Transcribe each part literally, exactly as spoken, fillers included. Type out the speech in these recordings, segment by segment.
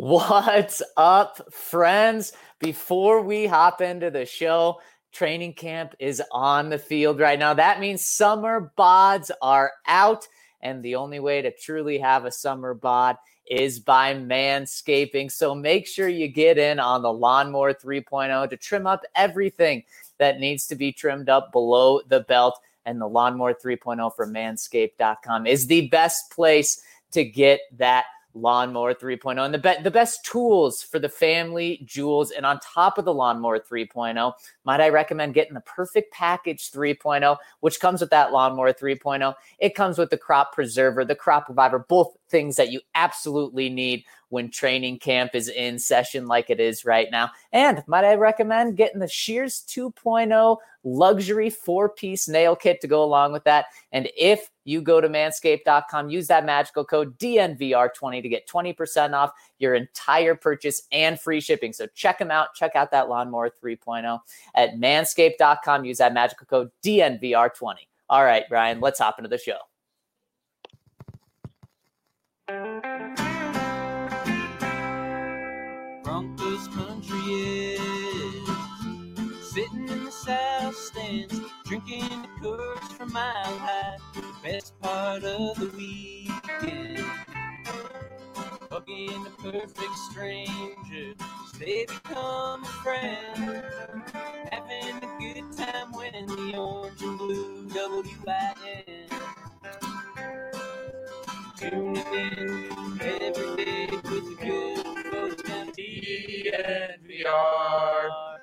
What's up, friends? Before we hop into the show, training camp is on the field right now. That means summer bods are out, and the only way to truly have a summer bod is by manscaping. So make sure you get in on the Lawnmower three point oh to trim up everything that needs to be trimmed up below the belt. And the Lawnmower three point oh from manscaped dot com is the best place to get that Lawnmower three point oh and the, be- the best tools for the family jewels. And on top of the Lawnmower three point oh, might I recommend getting the Perfect Package three point oh, which comes with that Lawnmower three point oh. It comes with the Crop Preserver, the Crop Reviver, both things that you absolutely need when training camp is in session like it is right now. And might I recommend getting the Shears two point oh luxury four-piece nail kit to go along with that. And if you go to manscaped dot com, use that magical code D N V R twenty to get twenty percent off your entire purchase and free shipping. So check them out. Check out that Lawnmower three point oh at manscaped dot com. Use that magical code D N V R twenty. All right, Brian, let's hop into the show. Broncos country is sitting in the south stands, drinking the curds from Mile High. The best part of the weekend, hugging the perfect stranger, they become a friend, having a good time winning the orange and blue W I N. Tuning in every day with the good folks down D N V R.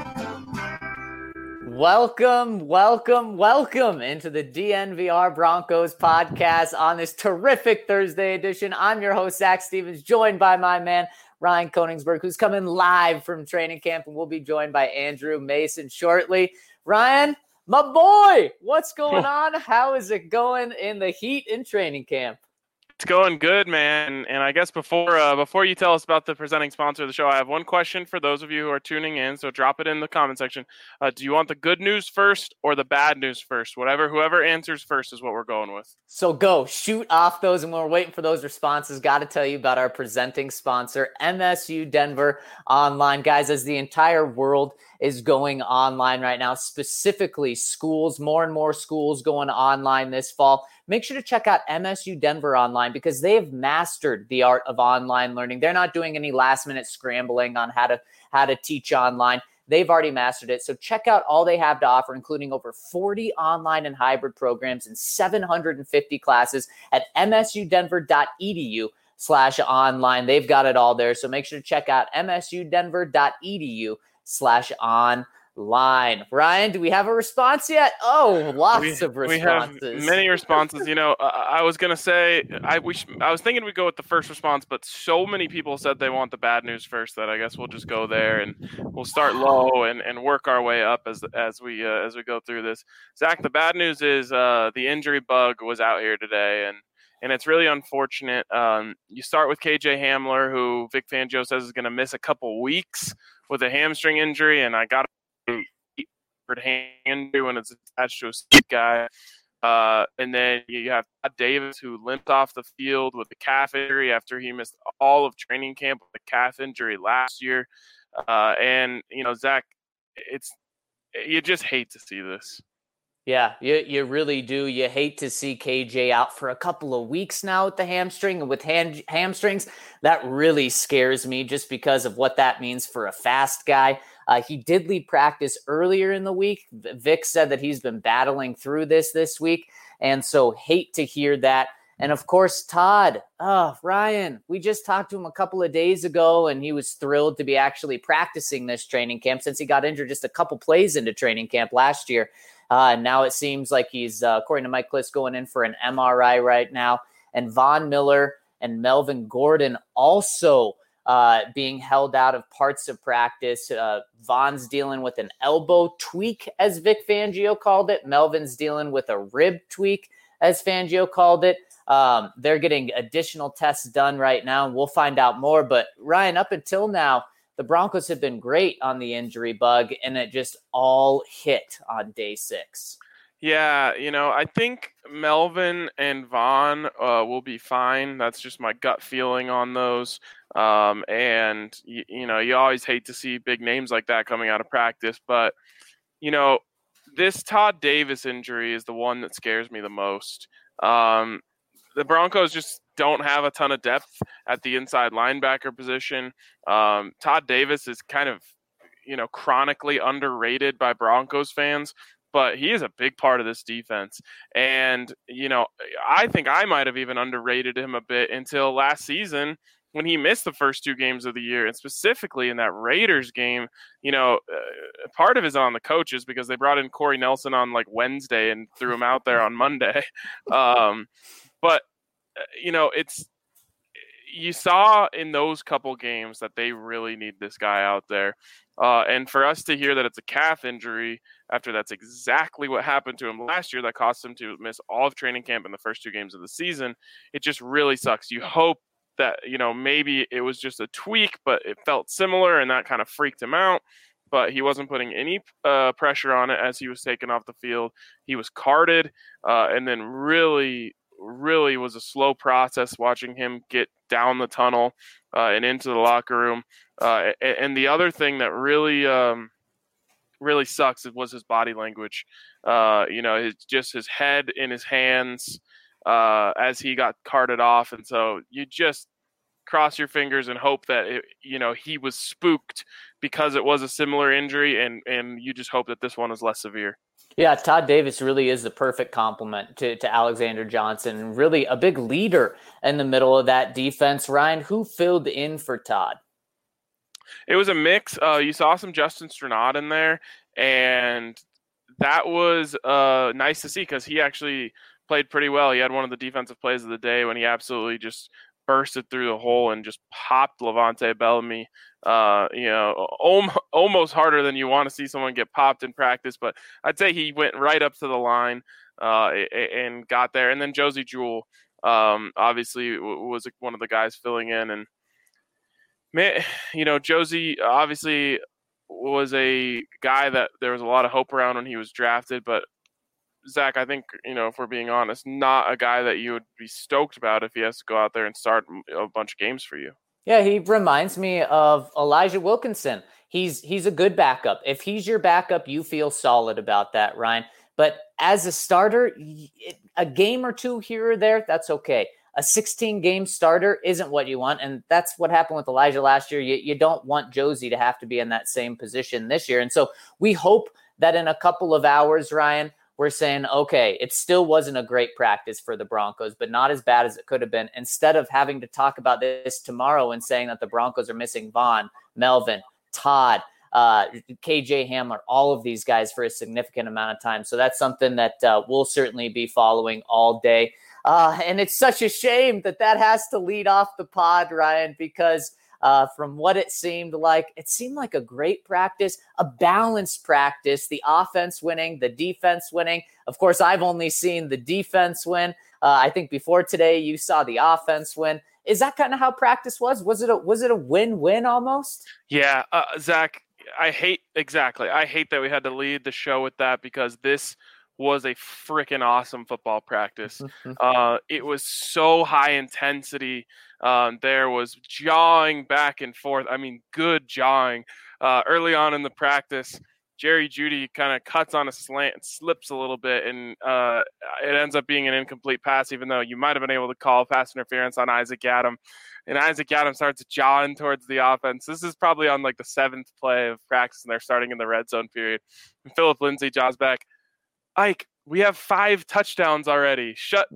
Welcome, welcome, welcome into the D N V R Broncos podcast on this terrific Thursday edition. I'm your host, Zach Stevens, joined by my man, Ryan Koenigsberg, who's coming live from training camp, and we'll be joined by Andrew Mason shortly. Ryan, my boy, what's going on? How is it going in the heat in training camp? It's going good, man. And I guess before uh, before you tell us about the presenting sponsor of the show, I have one question for those of you who are tuning in. So drop it in the comment section. Uh, do you want the good news first or the bad news first? Whatever, whoever answers first is what we're going with. So go shoot off those, and we're waiting for those responses. Got to tell you about our presenting sponsor, M S U Denver Online. Guys, as the entire world is going online right now, specifically schools, more and more schools going online this fall. Make sure to check out M S U Denver Online because they have mastered the art of online learning. They're not doing any last minute scrambling on how to how to teach online. They've already mastered it. So check out all they have to offer, including over forty online and hybrid programs and seven hundred fifty classes at msudenver.edu slash online. They've got it all there. So make sure to check out msudenver.edu slash online. Line. Ryan, do we have a response yet? Oh, lots we, of responses. We have many responses. You know, uh, I was going to say, I we sh- I was thinking we'd go with the first response, but so many people said they want the bad news first that I guess we'll just go there and we'll start low and, and work our way up as as we uh, as we go through this. Zach, the bad news is uh, the injury bug was out here today, and and it's really unfortunate. Um, you start with K J Hamler, who Vic Fangio says is going to miss a couple weeks with a hamstring injury, and I got hand when it's attached to a speed guy. Uh, and then you have Todd Davis, who limped off the field with a calf injury after he missed all of training camp with a calf injury last year. Uh, and, you know, Zach, it's you just hate to see this. Yeah, you, you really do. You hate to see K J out for a couple of weeks now with the hamstring. And with hand, hamstrings, that really scares me just because of what that means for a fast guy. Uh, he did leave practice earlier in the week. Vic said that he's been battling through this this week. And so hate to hear that. And of course, Todd, oh, Ryan, we just talked to him a couple of days ago, and he was thrilled to be actually practicing this training camp since he got injured just a couple plays into training camp last year. Uh, and now it seems like he's, uh, according to Mike Klis, going in for an M R I right now. And Von Miller and Melvin Gordon also uh, being held out of parts of practice. Uh, Von's dealing with an elbow tweak, as Vic Fangio called it. Melvin's dealing with a rib tweak, as Fangio called it. Um, they're getting additional tests done right now, and we'll find out more. But Ryan, up until now, the Broncos have been great on the injury bug, and it just all hit on day six. Yeah, you know, I think Melvin and Von uh, will be fine. That's just my gut feeling on those. Um, and, you, you know, you always hate to see big names like that coming out of practice. But, you know, this Todd Davis injury is the one that scares me the most. Um, the Broncos just don't have a ton of depth at the inside linebacker position. Um, Todd Davis is kind of, you know, chronically underrated by Broncos fans, but he is a big part of this defense. And, you know, I think I might have even underrated him a bit until last season when he missed the first two games of the year, and specifically in that Raiders game. You know, uh, part of it is on the coaches because they brought in Corey Nelson on like Wednesday and threw him out there on Monday. Um, but, uh, you know, it's, you saw in those couple games that they really need this guy out there. Uh, and for us to hear that it's a calf injury after that's exactly what happened to him last year that cost him to miss all of training camp in the first two games of the season, it just really sucks. You hope that, you know, maybe it was just a tweak, but it felt similar and that kind of freaked him out. But he wasn't putting any uh, pressure on it as he was taken off the field. He was carted uh, and then really, really was a slow process watching him get down the tunnel uh, and into the locker room. Uh, and the other thing that really, um, really sucks was his body language. Uh, you know, his, just his head in his hands uh, as he got carted off. And so you just cross your fingers and hope that, it, you know, he was spooked because it was a similar injury, and, and you just hope that this one is less severe. Yeah, Todd Davis really is the perfect complement to, to Alexander Johnson, really a big leader in the middle of that defense. Ryan, who filled in for Todd? It was a mix. Uh, you saw some Justin Strnad in there, and that was uh, nice to see because he actually played pretty well. He had one of the defensive plays of the day when he absolutely just bursted through the hole and just popped Levante Bellamy, uh, you know, almost harder than you want to see someone get popped in practice. But I'd say he went right up to the line uh, and got there. And then Josey Jewell, um, obviously, was one of the guys filling in. And, man, you know, Josey obviously was a guy that there was a lot of hope around when he was drafted. But, Zach, I think, you know, if we're being honest, not a guy that you would be stoked about if he has to go out there and start a bunch of games for you. Yeah, he reminds me of Elijah Wilkinson. He's he's a good backup. If he's your backup, you feel solid about that, Ryan. But as a starter, a game or two here or there, that's okay. A sixteen-game starter isn't what you want, and that's what happened with Elijah last year. You, you don't want Josey to have to be in that same position this year. And so we hope that in a couple of hours, Ryan, we're saying, okay, it still wasn't a great practice for the Broncos, but not as bad as it could have been. Instead of having to talk about this tomorrow and saying that the Broncos are missing Von, Melvin, Todd, uh, K J Hamler, all of these guys for a significant amount of time. So that's something that uh, we'll certainly be following all day. Uh, and it's such a shame that that has to lead off the pod, Ryan, because Uh, from what it seemed like, it seemed like a great practice, a balanced practice, the offense winning, the defense winning. Of course, I've only seen the defense win. Uh, I think before today, you saw the offense win. Is that kind of how practice was? Was it a, was it a win-win almost? Yeah, uh, Zach, I hate exactly. I hate that we had to lead the show with that because this was a freaking awesome football practice. uh, it was so high intensity. Um, there was jawing back and forth. I mean, good jawing. Uh, early on in the practice, Jerry Jeudy kind of cuts on a slant and slips a little bit, and uh, it ends up being an incomplete pass, even though you might have been able to call pass interference on Isaac Yiadom. And Isaac Yiadom starts jawing towards the offense. This is probably on like the seventh play of practice, and they're starting in the red zone period. And Philip Lindsay jaws back, Ike, we have five touchdowns already. Shut.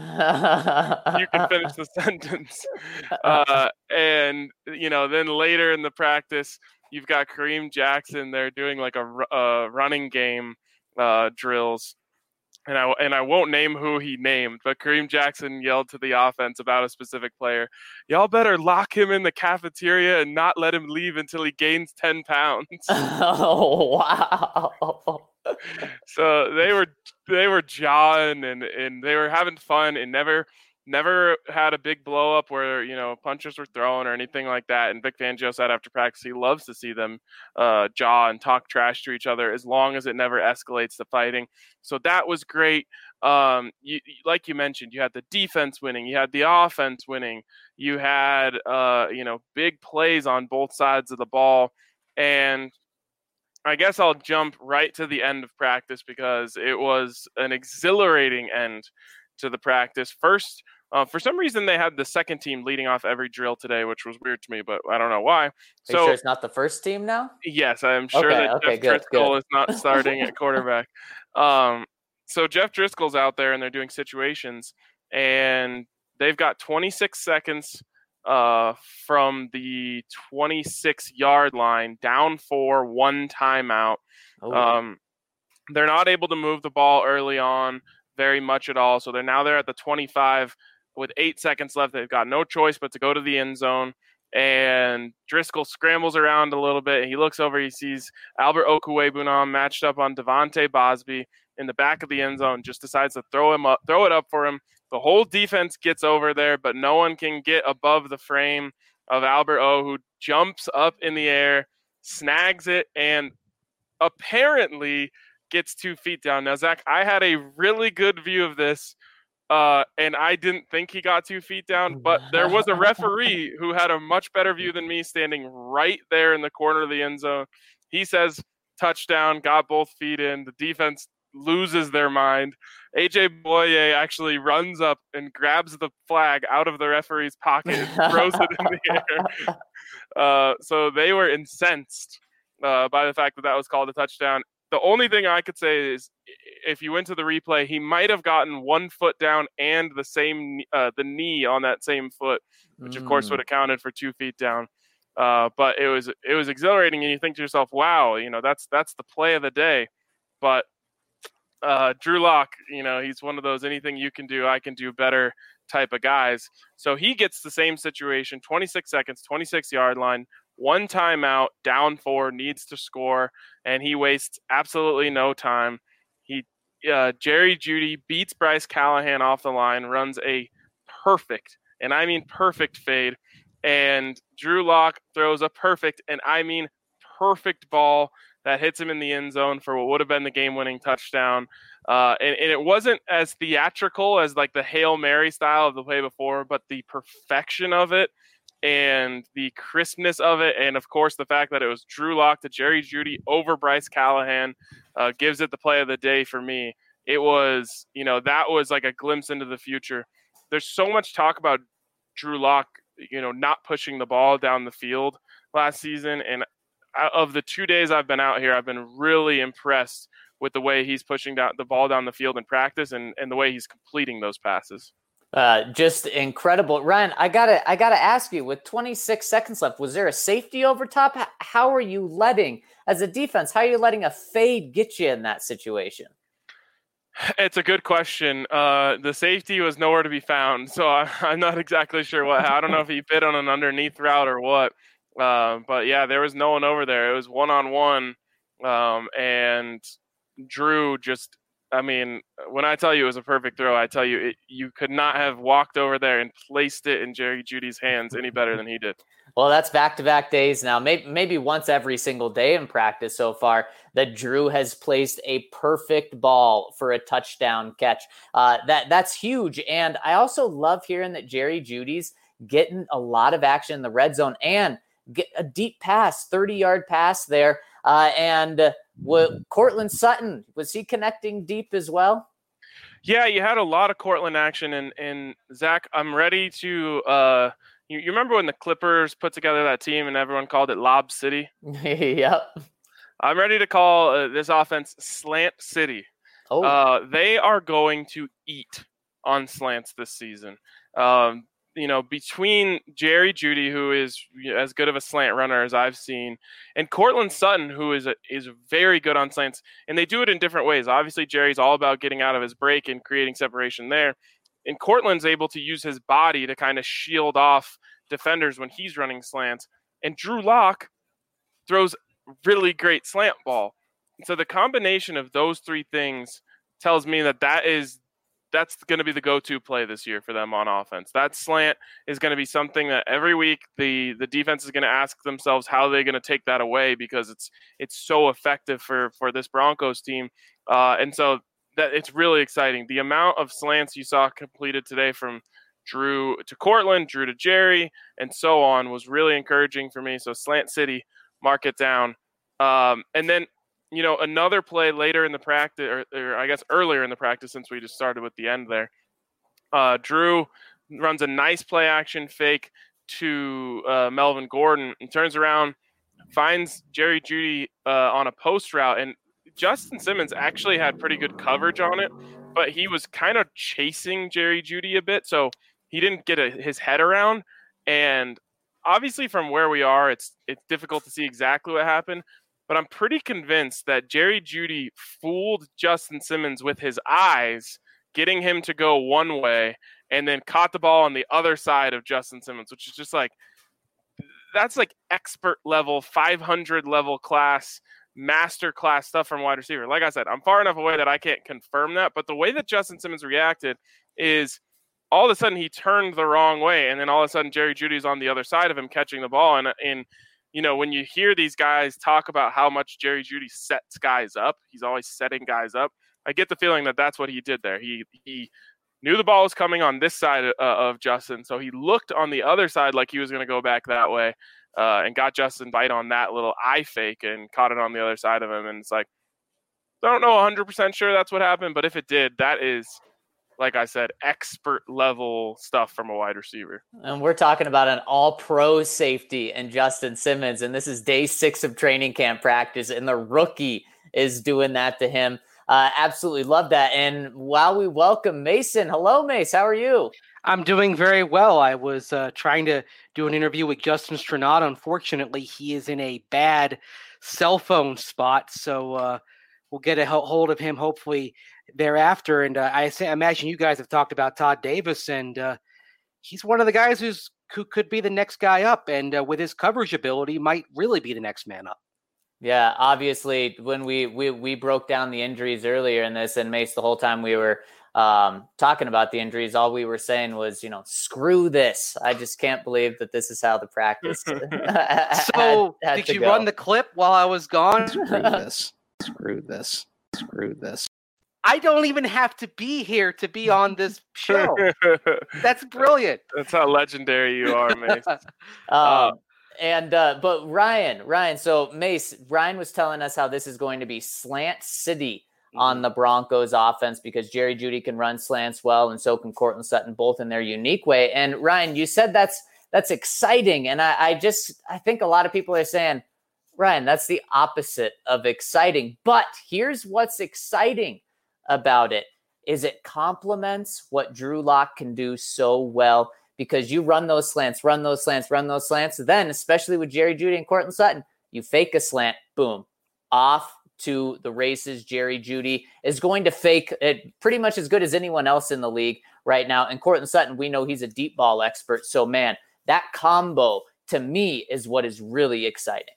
You can finish the sentence. Uh, and, you know, then later in the practice, you've got Kareem Jackson there doing like a, a running game uh, drills. And I, and I won't name who he named, but Kareem Jackson yelled to the offense about a specific player. Y'all better lock him in the cafeteria and not let him leave until he gains ten pounds. Oh, wow. So they were they were jawing and, and they were having fun and never never had a big blow up where, you know, punches were thrown or anything like that. And Vic Fangio said after practice he loves to see them uh, jaw and talk trash to each other as long as it never escalates to fighting. So that was great. um, you, like you mentioned, you had the defense winning, you had the offense winning, you had, uh, you know, big plays on both sides of the ball. And I guess I'll jump right to the end of practice because it was an exhilarating end to the practice. First, uh, for some reason, they had the second team leading off every drill today, which was weird to me, but I don't know why. Are so, you sure it's not the first team now? Yes, I'm sure okay, that okay, Jeff good, Driscoll good. is not starting at quarterback. Um, so Jeff Driscoll's out there and they're doing situations, and they've got twenty-six seconds uh, from the twenty-six yard line, down four, one timeout. Oh. Um, they're not able to move the ball early on very much at all. So they're now they're at the twenty-five with eight seconds left. They've got no choice but to go to the end zone. And Driscoll scrambles around a little bit. He looks over. He sees Albert Okwuegbunam matched up on Devontae Bosby in the back of the end zone. Just decides to throw him up, throw it up for him. The whole defense gets over there, but no one can get above the frame of Albert O, who jumps up in the air, snags it, and apparently gets two feet down. Now, Zach, I had a really good view of this. Uh, and I didn't think he got two feet down, but there was a referee who had a much better view than me standing right there in the corner of the end zone. He says touchdown, got both feet in. The defense loses their mind. A J Boye actually runs up and grabs the flag out of the referee's pocket and throws it in the air. Uh, so they were incensed uh, by the fact that that was called a touchdown. The only thing I could say is if you went to the replay, he might have gotten one foot down and the same uh, the knee on that same foot, which of course would have counted for two feet down. Uh, but it was it was exhilarating, and you think to yourself, "Wow, you know that's that's the play of the day." But uh, Drew Lock, you know, he's one of those anything you can do, I can do better type of guys. So he gets the same situation: twenty-six seconds, twenty-six yard line. One timeout, down four, needs to score, and he wastes absolutely no time. He uh, Jerry Jeudy beats Bryce Callahan off the line, runs a perfect, and I mean perfect fade, and Drew Lock throws a perfect, and I mean perfect ball that hits him in the end zone for what would have been the game-winning touchdown. Uh, and, and it wasn't as theatrical as like the Hail Mary style of the play before, but the perfection of it and the crispness of it, and of course the fact that it was Drew Lock to Jerry Jeudy over Bryce Callahan uh, gives it the play of the day for me. It was, you know, that was like a glimpse into the future. There's so much talk about Drew Lock, you know, not pushing the ball down the field last season, and of the two days I've been out here, I've been really impressed with the way he's pushing down the ball down the field in practice and, and the way he's completing those passes. Uh, just incredible. Ryan, I gotta, I gotta ask you, with twenty-six seconds left, was there a safety over top? How are you letting, as a defense, how are you letting a fade get you in that situation? It's a good question. Uh, the safety was nowhere to be found, so I, I'm not exactly sure what. I don't know if he bit on an underneath route or what. Uh, but yeah, there was no one over there. It was one on one, um, and Drew just. I mean, when I tell you it was a perfect throw, I tell you it, you could not have walked over there and placed it in Jerry Jeudy's hands any better than he did. Well, that's back-to-back days now. Maybe, maybe once every single day in practice so far that Drew has placed a perfect ball for a touchdown catch. Uh, that that's huge. And I also love hearing that Jerry Jeudy's getting a lot of action in the red zone and get a deep pass, thirty-yard pass there. Uh, and uh, what, Courtland Sutton, was he connecting deep as well? Yeah, you had a lot of Courtland action. And, and Zach, I'm ready to uh, – you, you remember when the Clippers put together that team and everyone called it Lob City? Yep. I'm ready to call uh, this offense Slant City. Oh. Uh, they are going to eat on slants this season. Um You know, between Jerry Jeudy, who is as good of a slant runner as I've seen, and Courtland Sutton, who is a, is very good on slants, and they do it in different ways. Obviously, Jerry's all about getting out of his break and creating separation there, and Courtland's able to use his body to kind of shield off defenders when he's running slants. And Drew Lock throws really great slant ball. And so the combination of those three things tells me that that is that's going to be the go-to play this year for them on offense. That slant is going to be something that every week the, the defense is going to ask themselves how they're going to take that away because it's it's so effective for, for this Broncos team. Uh, and so that it's really exciting. The amount of slants you saw completed today from Drew to Cortland, Drew to Jerry, and so on was really encouraging for me. So Slant City, mark it down. Um, and then, you know, another play later in the practice, or, or I guess earlier in the practice, since we just started with the end there. Uh, Drew runs a nice play action fake to uh, Melvin Gordon and turns around, finds Jerry Jeudy uh, on a post route. And Justin Simmons actually had pretty good coverage on it, but he was kind of chasing Jerry Jeudy a bit. So he didn't get a, his head around. And obviously from where we are, it's it's difficult to see exactly what happened. But I'm pretty convinced that Jerry Jeudy fooled Justin Simmons with his eyes, getting him to go one way, and then caught the ball on the other side of Justin Simmons, which is just like, that's like expert level, five hundred level class, master class stuff from wide receiver. Like I said, I'm far enough away that I can't confirm that. But the way that Justin Simmons reacted is all of a sudden he turned the wrong way. And then all of a sudden Jerry Jeudy's on the other side of him catching the ball. And, and you know, when you hear these guys talk about how much Jerry Jeudy sets guys up, he's always setting guys up. I get the feeling that that's what he did there. He he knew the ball was coming on this side uh, of Justin, so he looked on the other side like he was going to go back that way, uh, and got Justin bite on that little eye fake and caught it on the other side of him. And it's like, I don't know one hundred percent sure that's what happened, but if it did, that is, like I said, expert level stuff from a wide receiver. And we're talking about an all-pro safety and Justin Simmons, and this is day six of training camp practice, and the rookie is doing that to him. Uh, absolutely love that. And while we welcome Mason, hello, Mace. How are you? I'm doing very well. I was uh, trying to do an interview with Justin Stranato. Unfortunately, he is in a bad cell phone spot, so uh, we'll get a hold of him hopefully thereafter. And uh, I say, imagine you guys have talked about Todd Davis, and uh, he's one of the guys who's who could be the next guy up, and uh, with his coverage ability, might really be the next man up. Yeah, obviously, when we, we we broke down the injuries earlier in this, and Mace, the whole time we were um, talking about the injuries, all we were saying was, you know, screw this. I just can't believe that this is how the practice. So, had, had did you go. run the clip while I was gone? Screw this. Screw this. Screw this. I don't even have to be here to be on this show. That's brilliant. That's how legendary you are, Mace. um, uh, And, uh, but Ryan, Ryan, so Mace, Ryan was telling us how this is going to be Slant City mm-hmm. on the Broncos offense, because Jerry Jeudy can run slants well, and so can Cortland Sutton, both in their unique way. And Ryan, you said that's, that's exciting. And I, I just, I think a lot of people are saying, Ryan, that's the opposite of exciting. But here's what's exciting about it is it complements what Drew Lock can do so well. Because you run those slants, run those slants, run those slants. Then, especially with Jerry Jeudy and Cortland Sutton, you fake a slant, boom, off to the races. Jerry Jeudy is going to fake it pretty much as good as anyone else in the league right now. And Cortland Sutton, we know he's a deep ball expert. So, man, that combo to me is what is really exciting.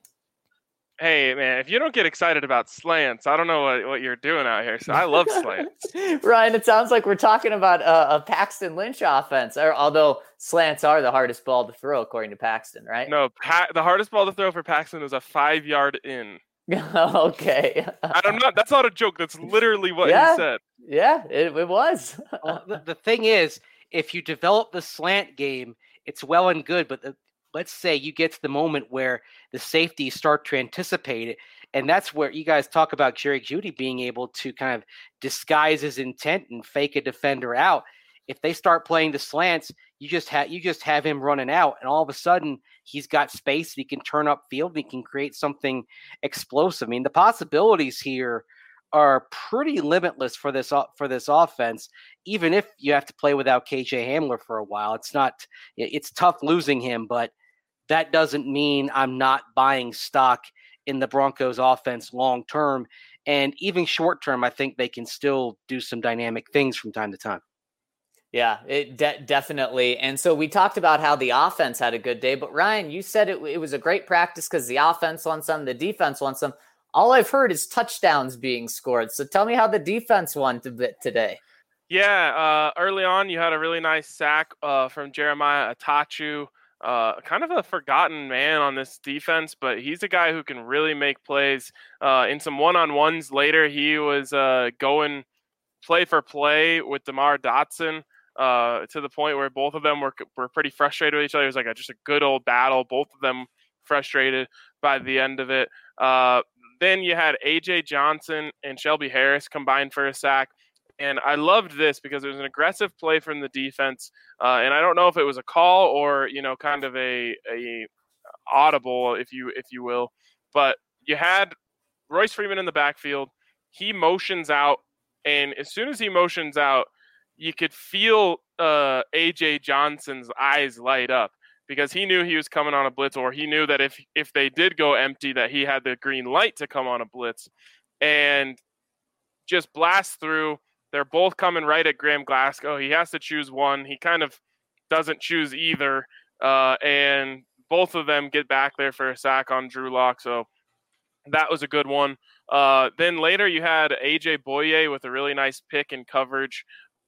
Hey, man, if you don't get excited about slants, I don't know what, what you're doing out here. So I love slants. Ryan, it sounds like we're talking about a, a Paxton Lynch offense, or, although slants are the hardest ball to throw, according to Paxton, right? No, pa- the hardest ball to throw for Paxton is a five-yard in. Okay. I'm not. That's not a joke. That's literally what yeah, he said. Yeah, it, it was. Well, the, the thing is, if you develop the slant game, it's well and good, but the let's say you get to the moment where the safeties start to anticipate it. And that's where you guys talk about Jerry Jeudy being able to kind of disguise his intent and fake a defender out. If they start playing the slants, you just have, you just have him running out, and all of a sudden he's got space. He can turn up field. He can create something explosive. I mean, the possibilities here are pretty limitless for this, for this offense. Even if you have to play without K J Hamler for a while, it's not, it's tough losing him, but that doesn't mean I'm not buying stock in the Broncos offense long term. And even short term, I think they can still do some dynamic things from time to time. Yeah, it de- definitely. And so we talked about how the offense had a good day, but Ryan, you said it, it was a great practice because the offense won some, the defense won some. All I've heard is touchdowns being scored. So tell me how the defense won a bit today. Yeah, uh, early on, you had a really nice sack uh, from Jeremiah Atachu. Uh, kind of a forgotten man on this defense, but he's a guy who can really make plays. Uh, in some one-on-ones later, he was uh, going play for play with DeMar Dotson uh, to the point where both of them were were pretty frustrated with each other. It was like a, just a good old battle. Both of them frustrated by the end of it. Uh, then you had A J Johnson and Shelby Harris combined for a sack. And I loved this because it was an aggressive play from the defense. Uh, and I don't know if it was a call or, you know, kind of a, a audible, if you, if you will, but you had Royce Freeman in the backfield. He motions out. And as soon as he motions out, you could feel uh, A J Johnson's eyes light up because he knew he was coming on a blitz, or he knew that if, if they did go empty, that he had the green light to come on a blitz and just blast through. They're both coming right at Graham Glasgow. He has to choose one. He kind of doesn't choose either. Uh, and both of them get back there for a sack on Drew Lock. So that was a good one. Uh, then later you had A J Boye with a really nice pick and coverage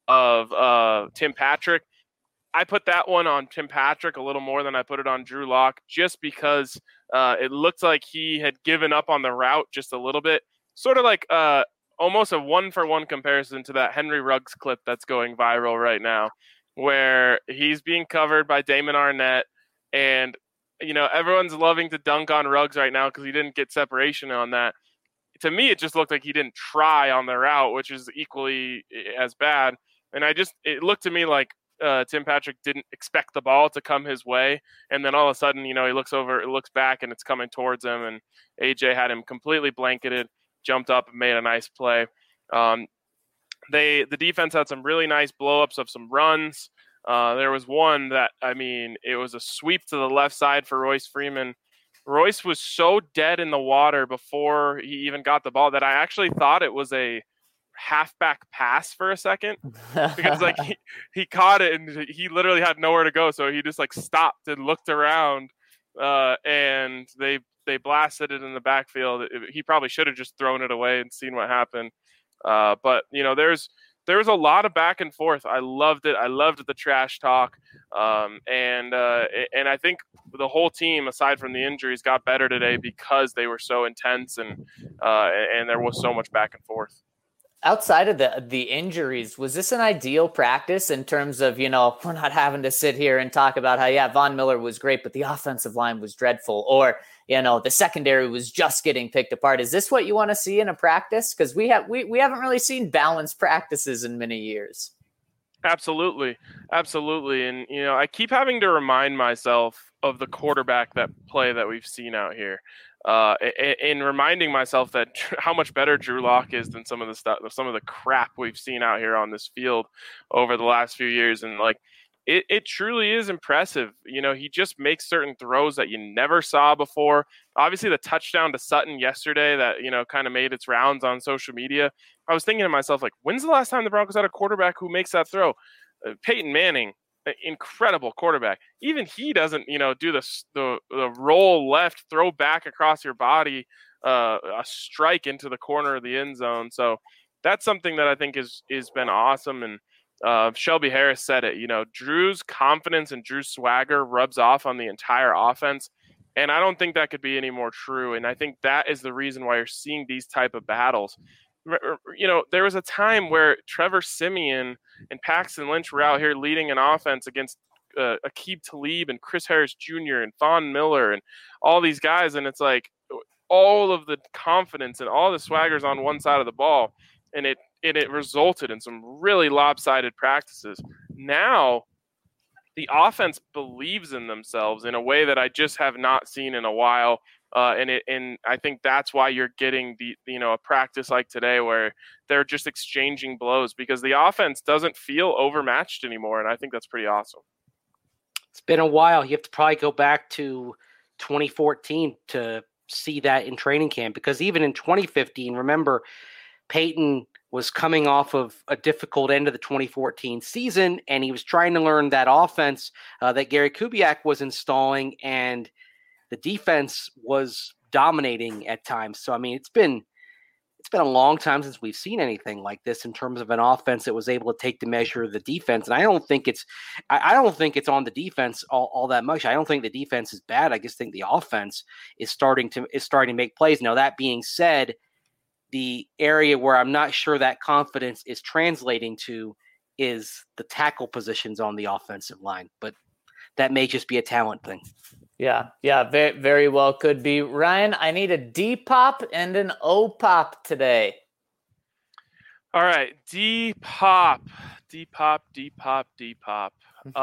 of uh, Tim Patrick. I put that one on Tim Patrick a little more than I put it on Drew Lock, just because uh, it looked like he had given up on the route just a little bit. Sort of like uh, almost a one-for-one comparison to that Henry Ruggs clip that's going viral right now, where he's being covered by Damon Arnett, and you know everyone's loving to dunk on Ruggs right now because he didn't get separation on that. To me, it just looked like he didn't try on the route, which is equally as bad. And I just, it looked to me like uh, Tim Patrick didn't expect the ball to come his way. And then all of a sudden, you know, he looks over, looks back, and it's coming towards him. And A J had him completely blanketed, jumped up and made a nice play. Um, they, the defense had some really nice blow-ups of some runs. Uh, there was one that, I mean, it was a sweep to the left side for Royce Freeman. Royce was so dead in the water before he even got the ball that I actually thought it was a halfback pass for a second, because like he, he caught it and he literally had nowhere to go. So he just like stopped and looked around uh, and they, they blasted it in the backfield. It, he probably should have just thrown it away and seen what happened. Uh, but you know, there's, there was a lot of back and forth. I loved it. I loved the trash talk. Um, and, uh, and I think the whole team, aside from the injuries, got better today because they were so intense and, uh, and there was so much back and forth. Outside of the the injuries, was this an ideal practice in terms of, you know, we're not having to sit here and talk about how, yeah, Von Miller was great, but the offensive line was dreadful, or, you know, the secondary was just getting picked apart. Is this what you want to see in a practice? Because we have we, we haven't really seen balanced practices in many years. Absolutely. Absolutely. And, you know, I keep having to remind myself of the quarterback that play that we've seen out here. Uh, in reminding myself that how much better Drew Lock is than some of the stuff, some of the crap we've seen out here on this field over the last few years. And like, it, it truly is impressive. You know, he just makes certain throws that you never saw before. Obviously the touchdown to Sutton yesterday that, you know, kind of made its rounds on social media. I was thinking to myself, like, when's the last time the Broncos had a quarterback who makes that throw? Uh, Peyton Manning, incredible quarterback. Even he doesn't, you know, do the the, the roll left, throw back across your body, uh, a strike into the corner of the end zone. So that's something that I think is is been awesome. And uh, Shelby Harris said it. You know, Drew's confidence and Drew's swagger rubs off on the entire offense, and I don't think that could be any more true. And I think that is the reason why you're seeing these type of battles. You know, there was a time where Trevor Siemian and Paxton Lynch were out here leading an offense against uh, Aqib Talib and Chris Harris Junior and Von Miller and all these guys. And it's like all of the confidence and all the swaggers on one side of the ball. And it, and it resulted in some really lopsided practices. Now the offense believes in themselves in a way that I just have not seen in a while. Uh, and it, and I think that's why you're getting the, you know, a practice like today where they're just exchanging blows because the offense doesn't feel overmatched anymore. And I think that's pretty awesome. It's been a while. You have to probably go back to twenty fourteen to see that in training camp, because even in twenty fifteen, remember, Peyton was coming off of a difficult end of the twenty fourteen season, and he was trying to learn that offense uh, that Gary Kubiak was installing, and the defense was dominating at times. So, I mean, it's been it's been a long time since we've seen anything like this in terms of an offense that was able to take the measure of the defense. And I don't think it's I, I don't think it's on the defense all, all that much. I don't think the defense is bad. I just think the offense is starting to is starting to make plays. Now, that being said, The area where I'm not sure that confidence is translating to is the tackle positions on the offensive line, but that may just be a talent thing. Yeah, yeah, very, very well could be. Ryan, I need a D pop and an O pop today. All right, D pop, D pop, D pop, D pop.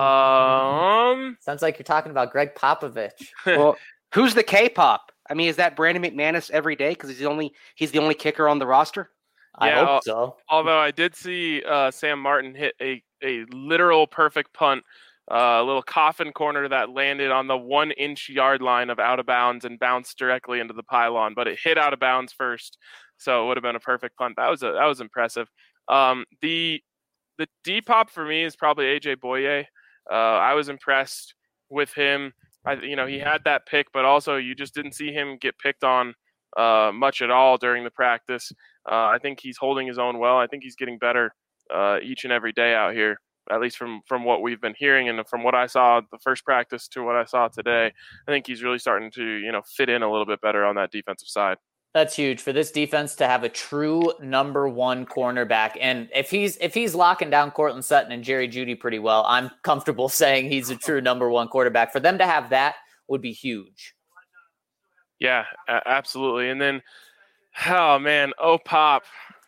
Um, sounds like you're talking about Greg Popovich. Well, who's the K-pop? I mean, is that Brandon McManus every day because he's the only he's the only kicker on the roster? I yeah, hope so. Although I did see uh, Sam Martin hit a a literal perfect punt. Uh, a little coffin corner that landed on the one inch yard line of out of bounds and bounced directly into the pylon, but it hit out of bounds first. So it would have been a perfect punt. That was a, that was impressive. Um, the, the D pop for me is probably A J Boye. Uh, I was impressed with him. I, you know, he had that pick, but also you just didn't see him get picked on uh, much at all during the practice. Uh, I think he's holding his own well. I think he's getting better uh, each and every day out here. At least from, from what we've been hearing and from what I saw the first practice to what I saw today, I think he's really starting to, you know, fit in a little bit better on that defensive side. That's huge for this defense to have a true number one cornerback. And if he's if he's locking down Cortland Sutton and Jerry Jeudy pretty well, I'm comfortable saying he's a true number one quarterback. For them to have that would be huge. Yeah, a- absolutely. And then, oh man, oh pop.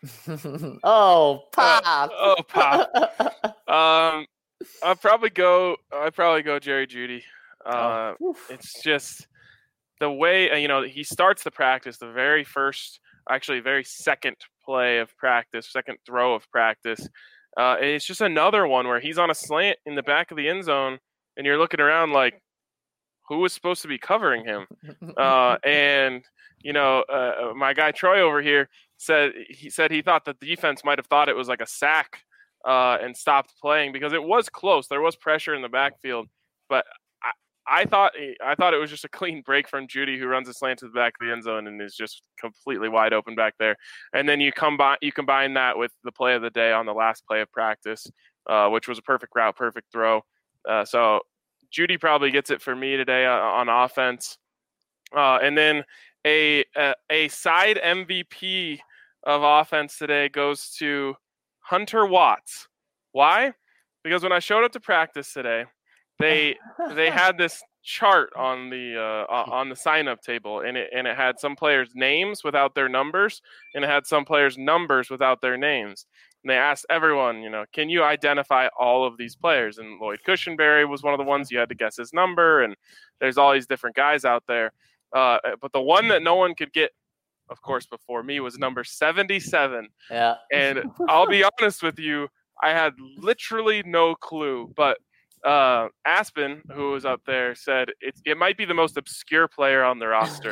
oh pop uh, oh pop um I'd probably go I'd probably go Jerry Jeudy. uh oh. It's just the way, you know, he starts the practice, the very first actually very second play of practice, second throw of practice, uh it's just another one where he's on a slant in the back of the end zone and you're looking around like, who was supposed to be covering him? uh and you know, uh, my guy Troy over here said he said he thought that the defense might have thought it was like a sack uh, and stopped playing because it was close. There was pressure in the backfield, but I, I thought I thought it was just a clean break from Jeudy, who runs a slant to the back of the end zone and is just completely wide open back there. And then you combine you combine that with the play of the day on the last play of practice, uh, which was a perfect route, perfect throw. Uh, so Jeudy probably gets it for me today on, on offense, uh, and then. A, a a side M V P of offense today goes to Hunter Watts. Why? Because when I showed up to practice today, they they had this chart on the uh, on the sign-up table, and it and it had some players' names without their numbers, and it had some players' numbers without their names. And they asked everyone, you know, can you identify all of these players? And Lloyd Cushenberry was one of the ones you had to guess his number, and there's all these different guys out there. Uh, but the one that no one could get, of course, before me was number seventy-seven. Yeah. And I'll be honest with you, I had literally no clue. But uh, Aspen, who was up there, said it, it might be the most obscure player on the roster.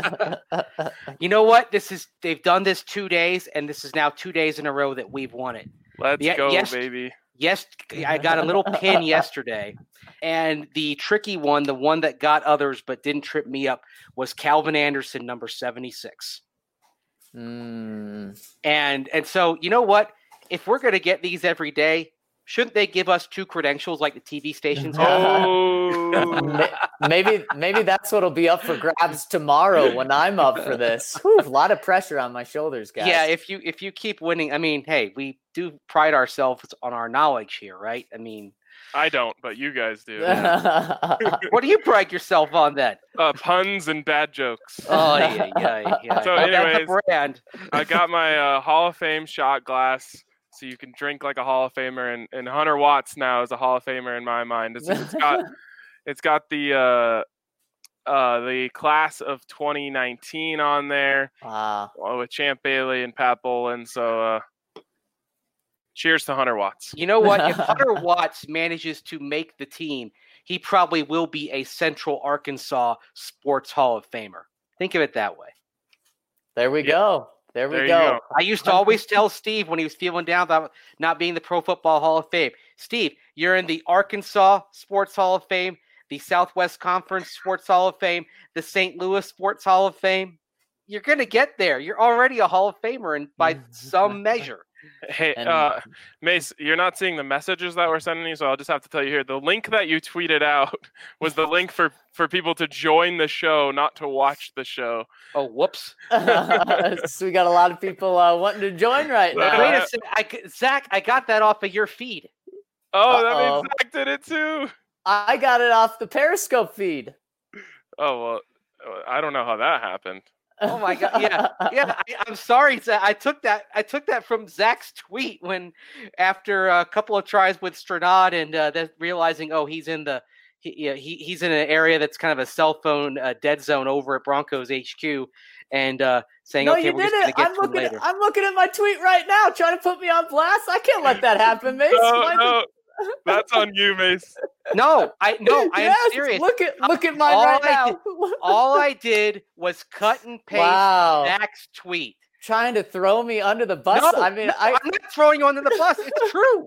You know what? This is they've done this two days, and this is now two days in a row that we've won it. Let's Ye- go, yes, baby. Yes, I got a little pin yesterday. And the tricky one, the one that got others but didn't trip me up, was Calvin Anderson, number seventy-six. Mm. And and so, you know what? If we're going to get these every day, shouldn't they give us two credentials like the T V stations have? Oh. maybe maybe that's what'll be up for grabs tomorrow when I'm up for this. Whew, a lot of pressure on my shoulders, guys. Yeah, if you if you keep winning, I mean, hey, we do pride ourselves on our knowledge here, right? I mean, I don't, but you guys do. What do you pride yourself on then? Uh, puns and bad jokes. Oh, yeah, yeah, yeah. So That's anyways, the brand. I got my uh, Hall of Fame shot glass, so you can drink like a Hall of Famer, and, and Hunter Watts now is a Hall of Famer in my mind. It's, it's got it's got the uh, uh, the class of twenty nineteen on there, Wow. with Champ Bailey and Pat Bolin. So uh, cheers to Hunter Watts. You know what? If Hunter Watts manages to make the team, he probably will be a Central Arkansas Sports Hall of Famer. Think of it that way. There we Yeah. go. There we There you go. go. I used to always tell Steve when he was feeling down about not being the Pro Football Hall of Fame, Steve, you're in the Arkansas Sports Hall of Fame, the Southwest Conference Sports Hall of Fame, the Saint Louis Sports Hall of Fame. You're going to get there. You're already a Hall of Famer and by some measure. Hey, And- uh, Mace, you're not seeing the messages that we're sending you, so I'll just have to tell you here. The link that you tweeted out was the link for, for people to join the show, not to watch the show. Oh, whoops. so we got a lot of people uh, wanting to join right now. Wait a second. I, c- Zach, I got that off of your feed. Oh, that Uh-oh. means Zach did it too. I got it off the Periscope feed. Oh, well, I don't know how that happened. Oh my god! Yeah, yeah. I, I'm sorry, Zach. I took that. I took that from Zach's tweet when, after a couple of tries with Stranad and uh, then realizing, oh, he's in the he, yeah, he he's in an area that's kind of a cell phone uh, dead zone over at Broncos H Q, and uh, saying, No, okay, you we're just gonna didn't. get I'm to him looking. later. At, I'm looking at my tweet right now, trying to put me on blast. I can't let that happen, Mace. No, Why no, that's on you, Mace. No, I no, I am Yes, serious. Look at look at mine All right I now. did- All I did was cut and paste Wow. Zach's tweet. Trying to throw me under the bus. No, I mean, no, I. I'm not throwing you under the bus. It's true.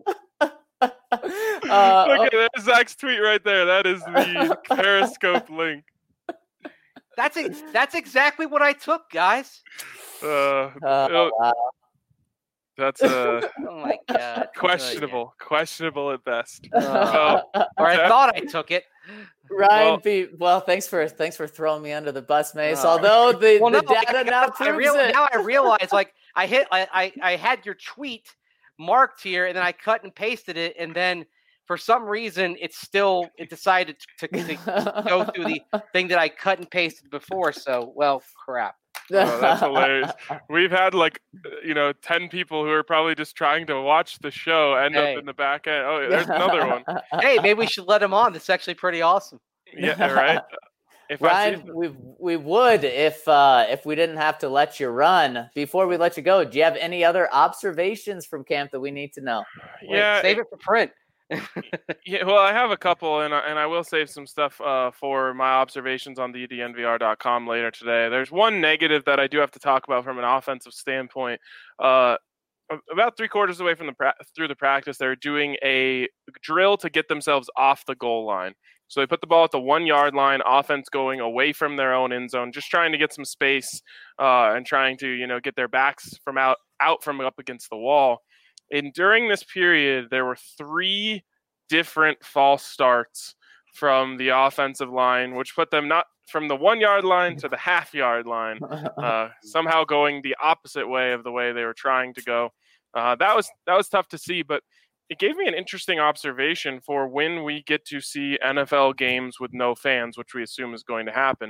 uh, Look at there's Zach's tweet right there. That is the Periscope link. That's ex- that's exactly what I took, guys. Uh, oh, oh, wow. that's uh, Oh my god. questionable. Questionable at best. Uh, So, or I Zach- thought I took it. Ryan Well- B. Well, thanks for thanks for throwing me under the bus, Mace. Oh. Although the, Well, the no, data I, now I proves real, it. now I realize, like I hit, I, I I had your tweet marked here, and then I cut and pasted it, and then for some reason it still it decided to, to, to go through the thing that I cut and pasted before. So, well, crap. Oh, that's hilarious. We've had like, you know, ten people who are probably just trying to watch the show end Hey. up in the back end. Oh, there's another one. Hey, maybe we should let him on. That's actually pretty awesome. Yeah, right. If I Ryan, see, we we would if uh, if we didn't have to let you run. Before we let you go, do you have any other observations from camp that we need to know? Wait, yeah, save it for print. yeah. Well, I have a couple, and I- and I will save some stuff uh, for my observations on the D N V R dot com later today. There's one negative that I do have to talk about from an offensive standpoint. Uh, about three quarters away from the pra- through the practice, they're doing a drill to get themselves off the goal line. So they put the ball at the one yard line, offense going away from their own end zone, just trying to get some space uh, and trying to, you know, get their backs from out, out from up against the wall. And during this period, there were three different false starts from the offensive line, which put them not from the one yard line to the half yard line, uh, somehow going the opposite way of the way they were trying to go. Uh, that was that was tough to see, but it gave me an interesting observation for when we get to see N F L games with no fans, which we assume is going to happen.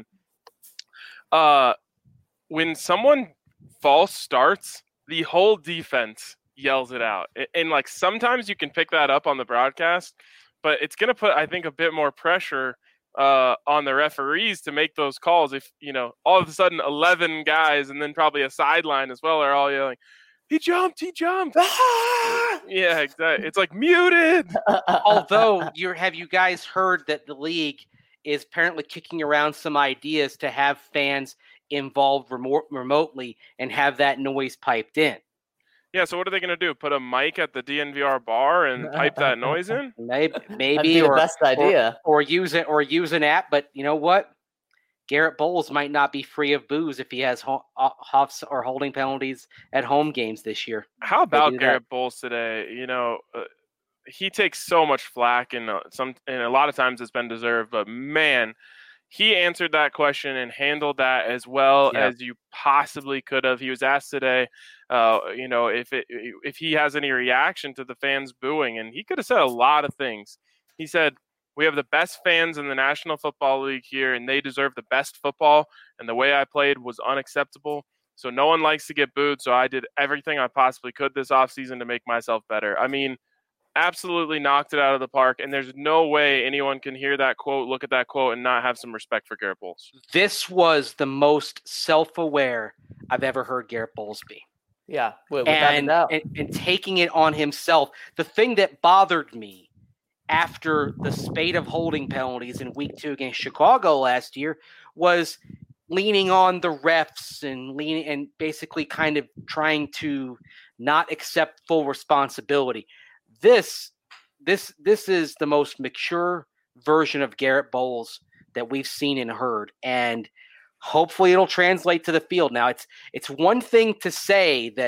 Uh, when someone false starts, the whole defense yells it out. And, and like sometimes you can pick that up on the broadcast, but it's going to put, I think, a bit more pressure uh, on the referees to make those calls. If, you know, all of a sudden eleven guys and then probably a sideline as well are all yelling, he jumped, he jumped. Ah! Yeah, exactly. It's like muted. Although, you have you guys heard that the league is apparently kicking around some ideas to have fans involved remote, remotely and have that noise piped in? Yeah, so what are they going to do? Put a mic at the D N V R bar and pipe that noise in? Maybe, That'd maybe, be the or best idea. or use it, or use an app. But you know what? Garrett Bowles might not be free of booze if he has ho- huffs or holding penalties at home games this year. How about do that. Garrett Bowles today? You know, uh, he takes so much flack, and uh, some, and a lot of times it's been deserved. But man, he answered that question and handled that as well Yeah. as you possibly could have. He was asked today, uh, you know, if it if he has any reaction to the fans booing, and he could have said a lot of things. He said, "We have the best fans in the National Football League here, and they deserve the best football. And the way I played was unacceptable. So no one likes to get booed. So I did everything I possibly could this offseason to make myself better." I mean, absolutely knocked it out of the park. And there's no way anyone can hear that quote, look at that quote, and not have some respect for Garrett Bowles. This was the most self-aware I've ever heard Garrett Bowles be. Yeah, without a and, doubt. and and taking it on himself. The thing that bothered me after the spate of holding penalties in week two against Chicago last year was leaning on the refs and leaning and basically kind of trying to not accept full responsibility. This this this is the most mature version of Garrett Bowles that we've seen and heard, and hopefully it'll translate to the field. Now, it's it's one thing to say that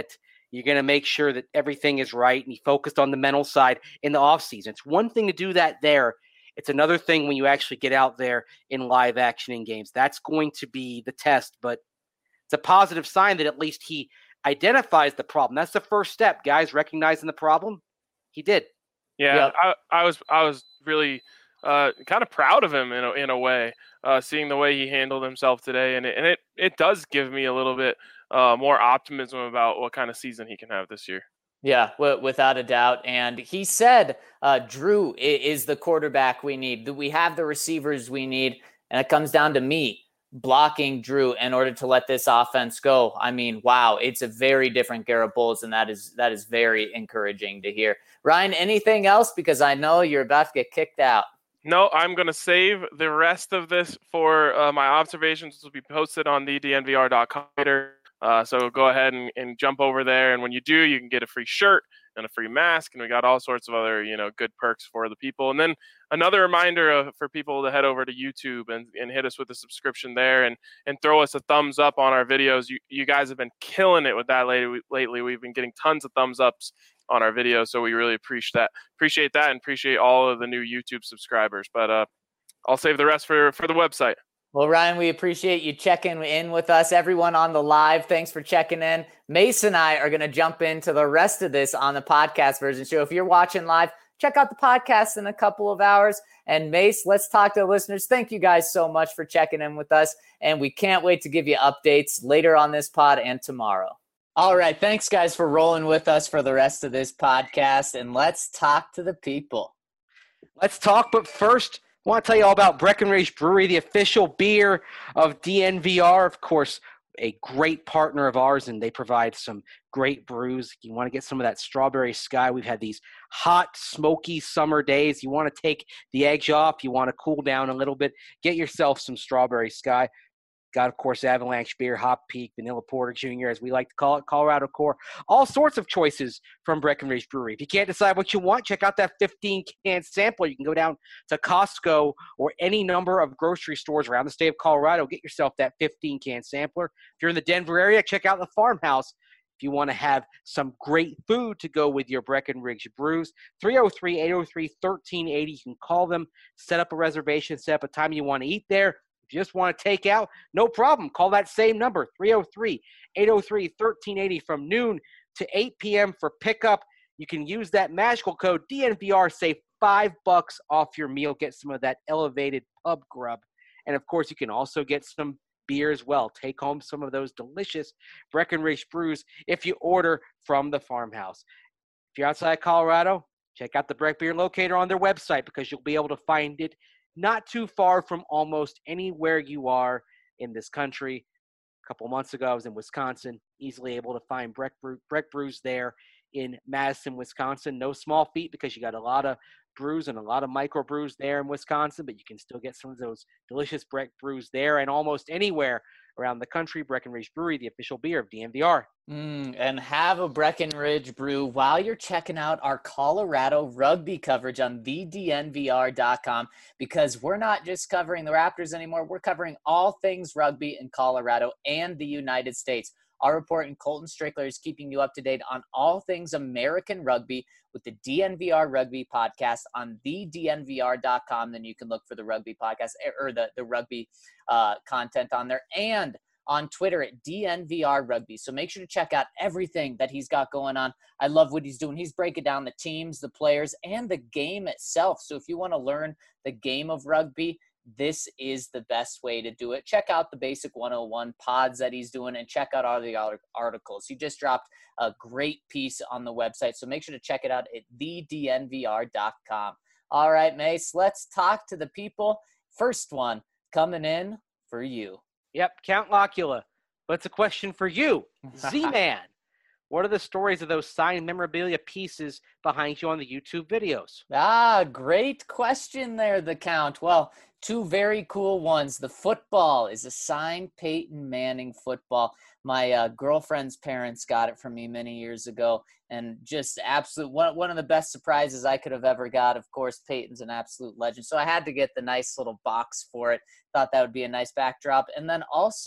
You're going to make sure that everything is right, and he focused on the mental side in the offseason. It's one thing to do that there. It's another thing when you actually get out there in live action in games. That's going to be the test, but it's a positive sign that at least he identifies the problem. That's the first step, guys, recognizing the problem. He did. Yeah, Yep. I, I was I was really uh, kind of proud of him in a, in a way, uh, seeing the way he handled himself today, and it, and it, it does give me a little bit uh, more optimism about what kind of season he can have this year. Yeah, w- without a doubt. And he said uh, Drew i- is the quarterback we need. We have the receivers we need, and it comes down to me blocking Drew in order to let this offense go. I mean, wow, it's a very different Garrett Bowles, and that is that is very encouraging to hear. Ryan, anything else? Because I know you're about to get kicked out. No, I'm going to save the rest of this for uh, my observations, which will be posted on the D N V R dot com later. Uh, so go ahead and, and jump over there. And when you do, you can get a free shirt and a free mask. And we got all sorts of other, you know, good perks for the people. And then another reminder of, for people to head over to YouTube and, and hit us with a subscription there and, and throw us a thumbs up on our videos. You, you guys have been killing it with that lately. lately. We've been getting tons of thumbs ups on our videos. So we really appreciate that. Appreciate that and appreciate all of the new YouTube subscribers. But uh, I'll save the rest for, for the website. Well, Ryan, we appreciate you checking in with us. Everyone on the live, thanks for checking in. Mace and I are going to jump into the rest of this on the podcast version. So if you're watching live, check out the podcast in a couple of hours. And Mace, let's talk to the listeners. Thank you guys so much for checking in with us. And we can't wait to give you updates later on this pod and tomorrow. All right. Thanks, guys, for rolling with us for the rest of this podcast. And let's talk to the people. Let's talk, but first, I want to tell you all about Breckenridge Brewery, the official beer of D N V R. Of course, a great partner of ours, and they provide some great brews. You want to get some of that Strawberry Sky. We've had these hot, smoky summer days. You want to take the edge off. You want to cool down a little bit. Get yourself some Strawberry Sky. Got, of course, Avalanche Beer, Hop Peak, Vanilla Porter Junior, as we like to call it, Colorado Core. All sorts of choices from Breckenridge Brewery. If you can't decide what you want, check out that fifteen-can sampler. You can go down to Costco or any number of grocery stores around the state of Colorado. Get yourself that fifteen-can sampler. If you're in the Denver area, check out the Farmhouse. If you want to have some great food to go with your Breckenridge brews, three oh three, eight oh three, one three eight oh. You can call them, set up a reservation, set up a time you want to eat there. If you just want to take out, no problem. Call that same number, three oh three, eight oh three, one three eight oh, from noon to eight p.m. for pickup. You can use that magical code D N V R, save five bucks off your meal. Get some of that elevated pub grub. And, of course, you can also get some beer as well. Take home some of those delicious Breckenridge brews if you order from the Farmhouse. If you're outside Colorado, check out the Breck Beer Locator on their website because you'll be able to find it not too far from almost anywhere you are in this country. A couple months ago, I was in Wisconsin, easily able to find Breck, Brew, Breck Brews there in Madison, Wisconsin. No small feat because you got a lot of brews and a lot of micro brews there in Wisconsin, but you can still get some of those delicious Breck Brews there and almost anywhere around the country. Breckenridge Brewery, the official beer of D N V R. Mm, and have a Breckenridge brew while you're checking out our Colorado rugby coverage on the D N V R dot com, because we're not just covering the Raptors anymore. We're covering all things rugby in Colorado and the United States. Our reporter, Colton Strickler, is keeping you up to date on all things American rugby with the D N V R Rugby Podcast on the D N V R dot com. Then you can look for the rugby podcast or the, the rugby uh, content on there, and on Twitter at D N V R Rugby. So make sure to check out everything that he's got going on. I love what he's doing. He's breaking down the teams, the players, and the game itself. So if you want to learn the game of rugby, this is the best way to do it. Check out the Basic one oh one pods that he's doing and check out all the other articles. He just dropped a great piece on the website, so make sure to check it out at the D N V R dot com. All right, Mace, let's talk to the people. First one coming in for you. Yep, Count Locula. But it's a question for you, Z-Man. What are the stories of those signed memorabilia pieces behind you on the YouTube videos? Ah, great question there, the Count. Well, two very cool ones. The football is a signed Peyton Manning football. My uh, girlfriend's parents got it from me many years ago, and just absolute one, one of the best surprises I could have ever got. Of course, Peyton's an absolute legend, so I had to get the nice little box for it. Thought that would be a nice backdrop. And then also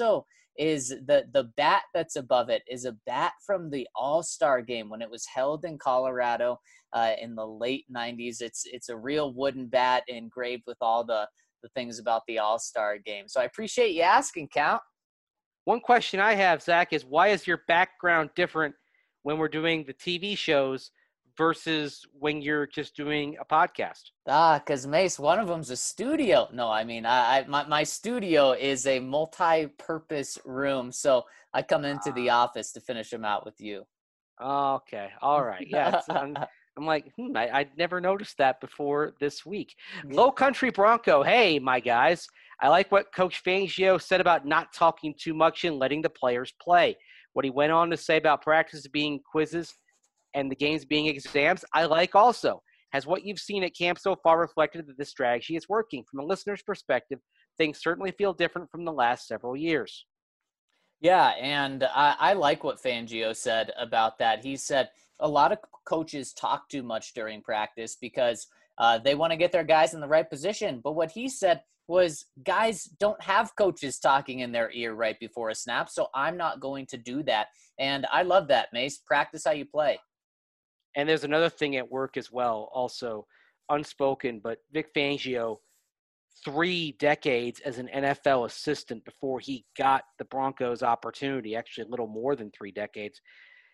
is the the bat that's above it is a bat from the All-Star game when it was held in Colorado uh, in the late nineties. It's it's a real wooden bat engraved with all the, the things about the All-Star game. So I appreciate you asking, Count. One question I have, Zach, is why is your background different when we're doing the T V shows versus when you're just doing a podcast? Ah, because Mace, one of them's a studio. No, I mean, I, I my, my studio is a multi-purpose room, so I come into the office to finish them out with you. Okay, all right, yeah. It's, I'm, I'm like, hmm, I, I'd never noticed that before this week. Low Country Bronco, hey, my guys. I like what Coach Fangio said about not talking too much and letting the players play. What he went on to say about practice being quizzes and the games being exams, I like also. Has what you've seen at camp so far reflected that this strategy is working? From a listener's perspective, things certainly feel different from the last several years. Yeah, and I, I like what Fangio said about that. He said a lot of coaches talk too much during practice because uh, they want to get their guys in the right position. But what he said was guys don't have coaches talking in their ear right before a snap, so I'm not going to do that. And I love that, Mace. Practice how you play. And there's another thing at work as well, also unspoken, but Vic Fangio, three decades as an N F L assistant before he got the Broncos opportunity, actually a little more than three decades.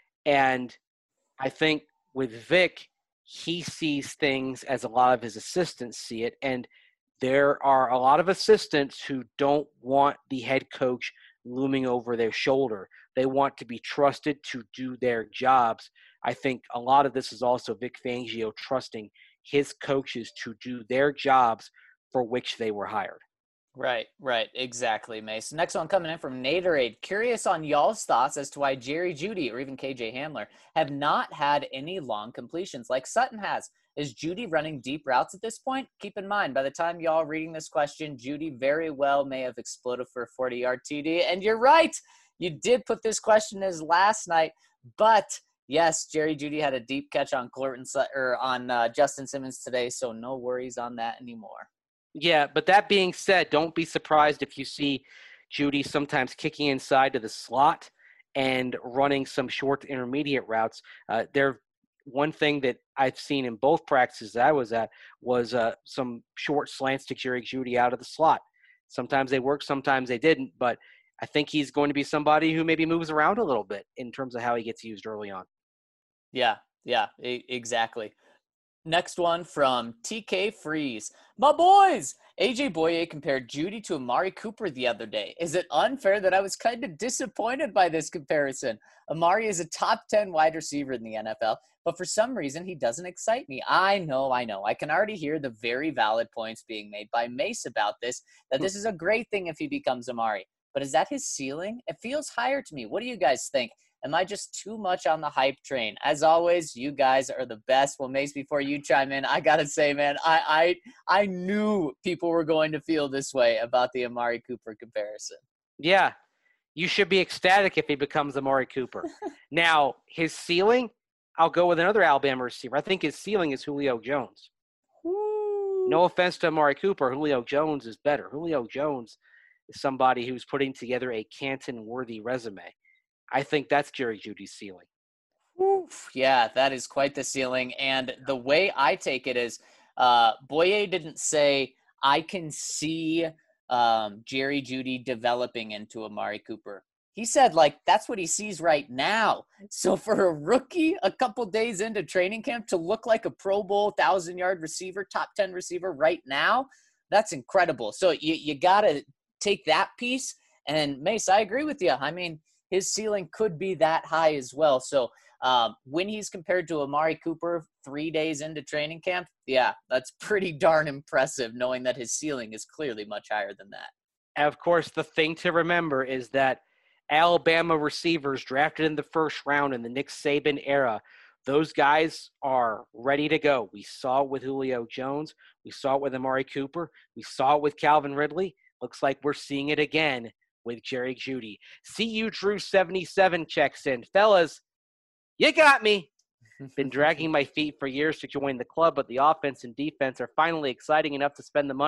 And I think with Vic, he sees things as a lot of his assistants see it. And there are a lot of assistants who don't want the head coach looming over their shoulder. They want to be trusted to do their jobs. I think a lot of this is also Vic Fangio trusting his coaches to do their jobs for which they were hired. Right, right, exactly, Mace. Next one coming in from Naderade. Curious on y'all's thoughts as to why Jerry Jeudy or even K J Hamler have not had any long completions like Sutton has. Is Jeudy running deep routes at this point? Keep in mind, by the time y'all reading this question, Jeudy very well may have exploded for a forty-yard T D. And you're right, you did put this question as last night, but yes, Jerry Jeudy had a deep catch on Courtland or on uh, Justin Simmons today, so no worries on that anymore. Yeah, but that being said, don't be surprised if you see Jeudy sometimes kicking inside to the slot and running some short to intermediate routes. Uh, there, one thing that I've seen in both practices that I was at was uh, some short slants to Jerry Jeudy out of the slot. Sometimes they worked, sometimes they didn't, but I think he's going to be somebody who maybe moves around a little bit in terms of how he gets used early on. Yeah, yeah, e- exactly. Next one from T K Freeze. My boys! A J Boye compared Jeudy to Amari Cooper the other day. Is it unfair that I was kind of disappointed by this comparison? Amari is a top ten wide receiver in the N F L, but for some reason he doesn't excite me. I know, I know. I can already hear the very valid points being made by Mace about this, that this is a great thing if he becomes Amari. But is that his ceiling? It feels higher to me. What do you guys think? Am I just too much on the hype train? As always, you guys are the best. Well, Mace, before you chime in, I gotta say, man, I I I knew people were going to feel this way about the Amari Cooper comparison. Yeah, you should be ecstatic if he becomes Amari Cooper. Now, his ceiling, I'll go with another Alabama receiver. I think his ceiling is Julio Jones. Woo. No offense to Amari Cooper, Julio Jones is better. Julio Jones is somebody who's putting together a Canton-worthy resume. I think that's Jerry Jeudy's ceiling. Oof. Yeah, that is quite the ceiling. And the way I take it is uh, Boye didn't say, I can see um, Jerry Jeudy developing into Amari Cooper. He said, like, that's what he sees right now. So for a rookie, a couple days into training camp to look like a Pro Bowl thousand-yard receiver, top ten receiver right now, that's incredible. So you, you got to take that piece. And, Mace, I agree with you. I mean, his ceiling could be that high as well. So um, when he's compared to Amari Cooper three days into training camp, yeah, that's pretty darn impressive knowing that his ceiling is clearly much higher than that. And of course, the thing to remember is that Alabama receivers drafted in the first round in the Nick Saban era, those guys are ready to go. We saw it with Julio Jones. We saw it with Amari Cooper. We saw it with Calvin Ridley. Looks like we're seeing it again with Jerry Jeudy. C U Drew seventy-seven checks in. Fellas, you got me. Been dragging my feet for years to join the club, but the offense and defense are finally exciting enough to spend the money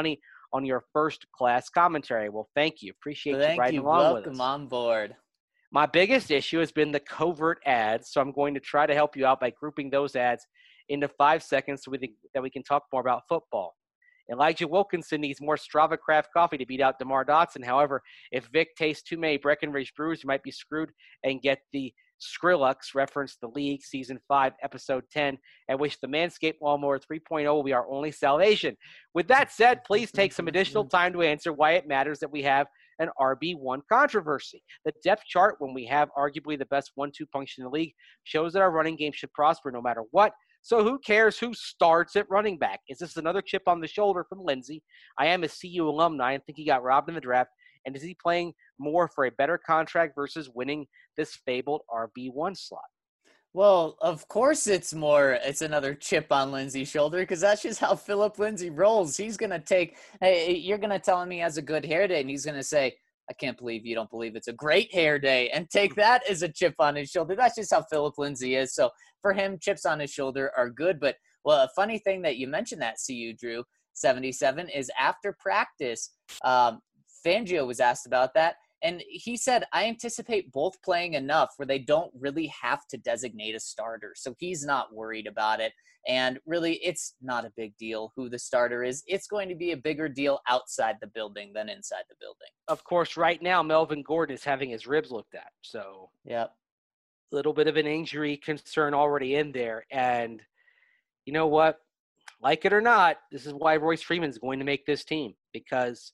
on your first-class commentary. Well, thank you. Appreciate Thank you riding you. along Welcome with us. on board. My biggest issue has been the covert ads, so I'm going to try to help you out by grouping those ads into five seconds so we think that we can talk more about football. Elijah Wilkinson needs more Strava Craft coffee to beat out DeMar Dotson. However, if Vic tastes too many Breckenridge brews, you might be screwed and get the Skrillex, reference the league, season five, episode ten, at which the Manscaped Lawnmower three point oh will be our only salvation. With that said, please take some additional time to answer why it matters that we have an R B one controversy. The depth chart, when we have arguably the best one two punch in the league, shows that our running game should prosper no matter what. So who cares who starts at running back? Is this another chip on the shoulder from Lindsey? I am a C U alumni and think he got robbed in the draft. And is he playing more for a better contract versus winning this fabled R B one slot? Well, of course it's more, it's another chip on Lindsey's shoulder because that's just how Philip Lindsay rolls. He's going to take, hey, you're going to tell him he has a good hair day and he's going to say, I can't believe you don't believe it's a great hair day, and take that as a chip on his shoulder. That's just how Philip Lindsay is. So for him, chips on his shoulder are good. But, well, a funny thing that you mentioned that, C U, Drew, seventy-seven, is after practice, um, Fangio was asked about that, and he said, I anticipate both playing enough where they don't really have to designate a starter. So he's not worried about it. And really, it's not a big deal who the starter is. It's going to be a bigger deal outside the building than inside the building. Of course, right now, Melvin Gordon is having his ribs looked at. So yep. A little bit of an injury concern already in there. And you know what? Like it or not, this is why Royce Freeman is going to make this team, because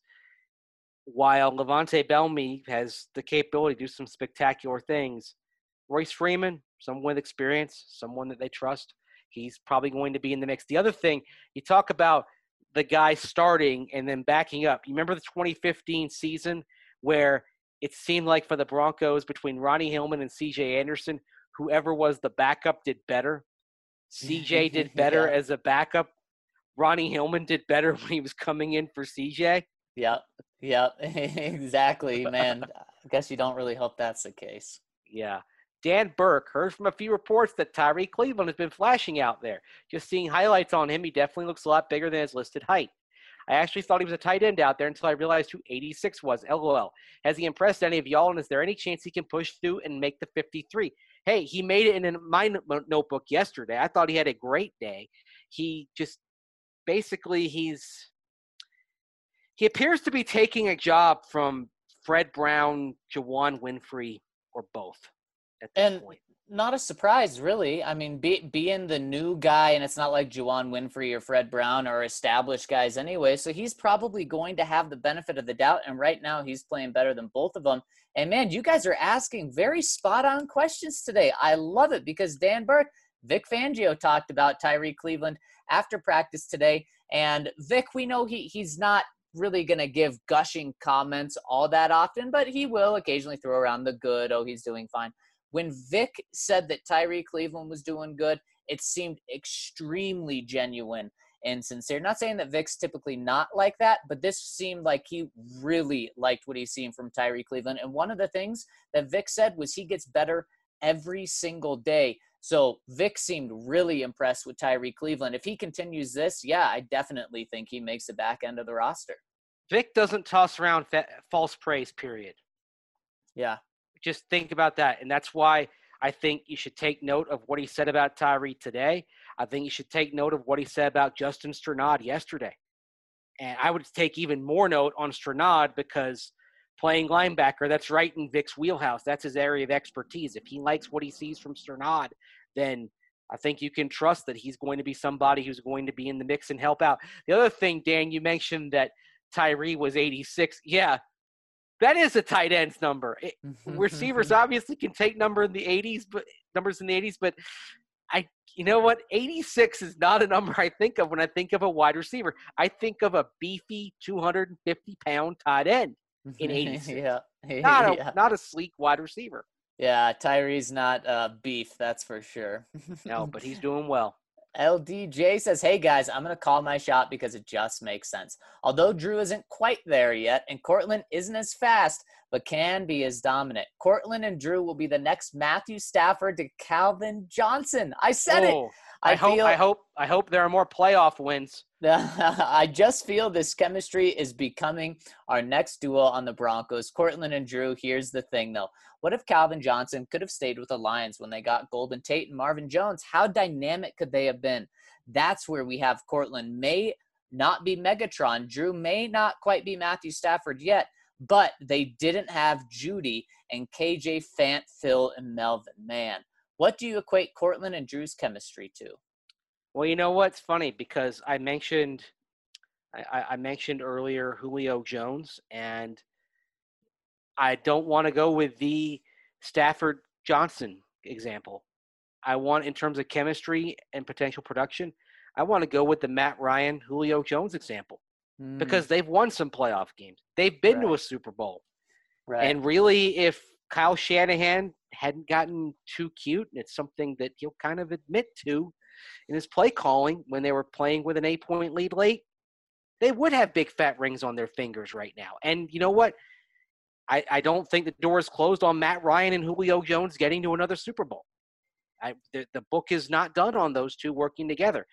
while Levante Bellamy has the capability to do some spectacular things, Royce Freeman, someone with experience, someone that they trust, he's probably going to be in the mix. The other thing, you talk about the guy starting and then backing up. You remember the twenty fifteen season where it seemed like for the Broncos between Ronnie Hillman and C J Anderson, whoever was the backup did better. C J did better yeah. as a backup. Ronnie Hillman did better when he was coming in for C J. Yep. Yep. Exactly, man. I guess you don't really hope that's the case. Yeah. Dan Burke heard from a few reports that Tyree Cleveland has been flashing out there. Just seeing highlights on him, he definitely looks a lot bigger than his listed height. I actually thought he was a tight end out there until I realized who eighty-six was. LOL. Has he impressed any of y'all, and is there any chance he can push through and make the fifty-three? Hey, he made it in my notebook yesterday. I thought he had a great day. He just basically he's he appears to be taking a job from Fred Brown, Juwann Winfree, or both at this and point. Not a surprise, really. I mean, be, being the new guy, and it's not like Juwann Winfree or Fred Brown are established guys anyway, so he's probably going to have the benefit of the doubt, and right now he's playing better than both of them. And, man, you guys are asking very spot-on questions today. I love it because Dan Burke, Vic Fangio talked about Tyree Cleveland after practice today, and Vic, we know he he's not really going to give gushing comments all that often, but he will occasionally throw around the good, oh, he's doing fine. When Vic said that Tyree Cleveland was doing good, it seemed extremely genuine and sincere. Not saying that Vic's typically not like that, but this seemed like he really liked what he's seen from Tyree Cleveland. And one of the things that Vic said was he gets better every single day. So Vic seemed really impressed with Tyree Cleveland. If he continues this, yeah, I definitely think he makes the back end of the roster. Vic doesn't toss around fa- false praise, period. Yeah. Just think about that. And that's why I think you should take note of what he said about Tyree today. I think you should take note of what he said about Justin Strnad yesterday. And I would take even more note on Strnad because playing linebacker, that's right in Vic's wheelhouse. That's his area of expertise. If he likes what he sees from Strnad, then I think you can trust that he's going to be somebody who's going to be in the mix and help out. The other thing, Dan, you mentioned that Tyree was eighty-six. Yeah. That is a tight end's number. It, receivers obviously can take number in the eighties, but numbers in the eighties, but I, you know what? eighty-six is not a number I think of when I think of a wide receiver. I think of a beefy two hundred fifty pound tight end in eighty-six. yeah. Not a, yeah. not a sleek wide receiver. Yeah. Tyree's not uh, beef. That's for sure. No, but he's doing well. L D J says, hey, guys, I'm going to call my shot because it just makes sense. Although Drew isn't quite there yet, and Cortland isn't as fast, but can be as dominant. Cortland and Drew will be the next Matthew Stafford to Calvin Johnson. I said oh. it. I, I hope feel, I hope I hope there are more playoff wins. I just feel this chemistry is becoming our next duo on the Broncos. Courtland and Drew, here's the thing, though. What if Calvin Johnson could have stayed with the Lions when they got Golden Tate and Marvin Jones? How dynamic could they have been? That's where we have Courtland may not be Megatron. Drew may not quite be Matthew Stafford yet, but they didn't have Judy and K J, Fant, Phil, and Melvin. Man, what do you equate Courtland and Drew's chemistry to? Well, you know what's funny, because I mentioned I, I mentioned earlier Julio Jones, and I don't want to go with the Stafford Johnson example. I want, in terms of chemistry and potential production, I want to go with the Matt Ryan, Julio Jones example, Mm, because they've won some playoff games. They've been to Right. a Super Bowl. right. And really, if Kyle Shanahan hadn't gotten too cute, and it's something that he'll kind of admit to in his play calling when they were playing with an eight-point lead late, they would have big fat rings on their fingers right now. And you know what? I, I don't think the door is closed on Matt Ryan and Julio Jones getting to another Super Bowl. I, the, the book is not done on those two working together.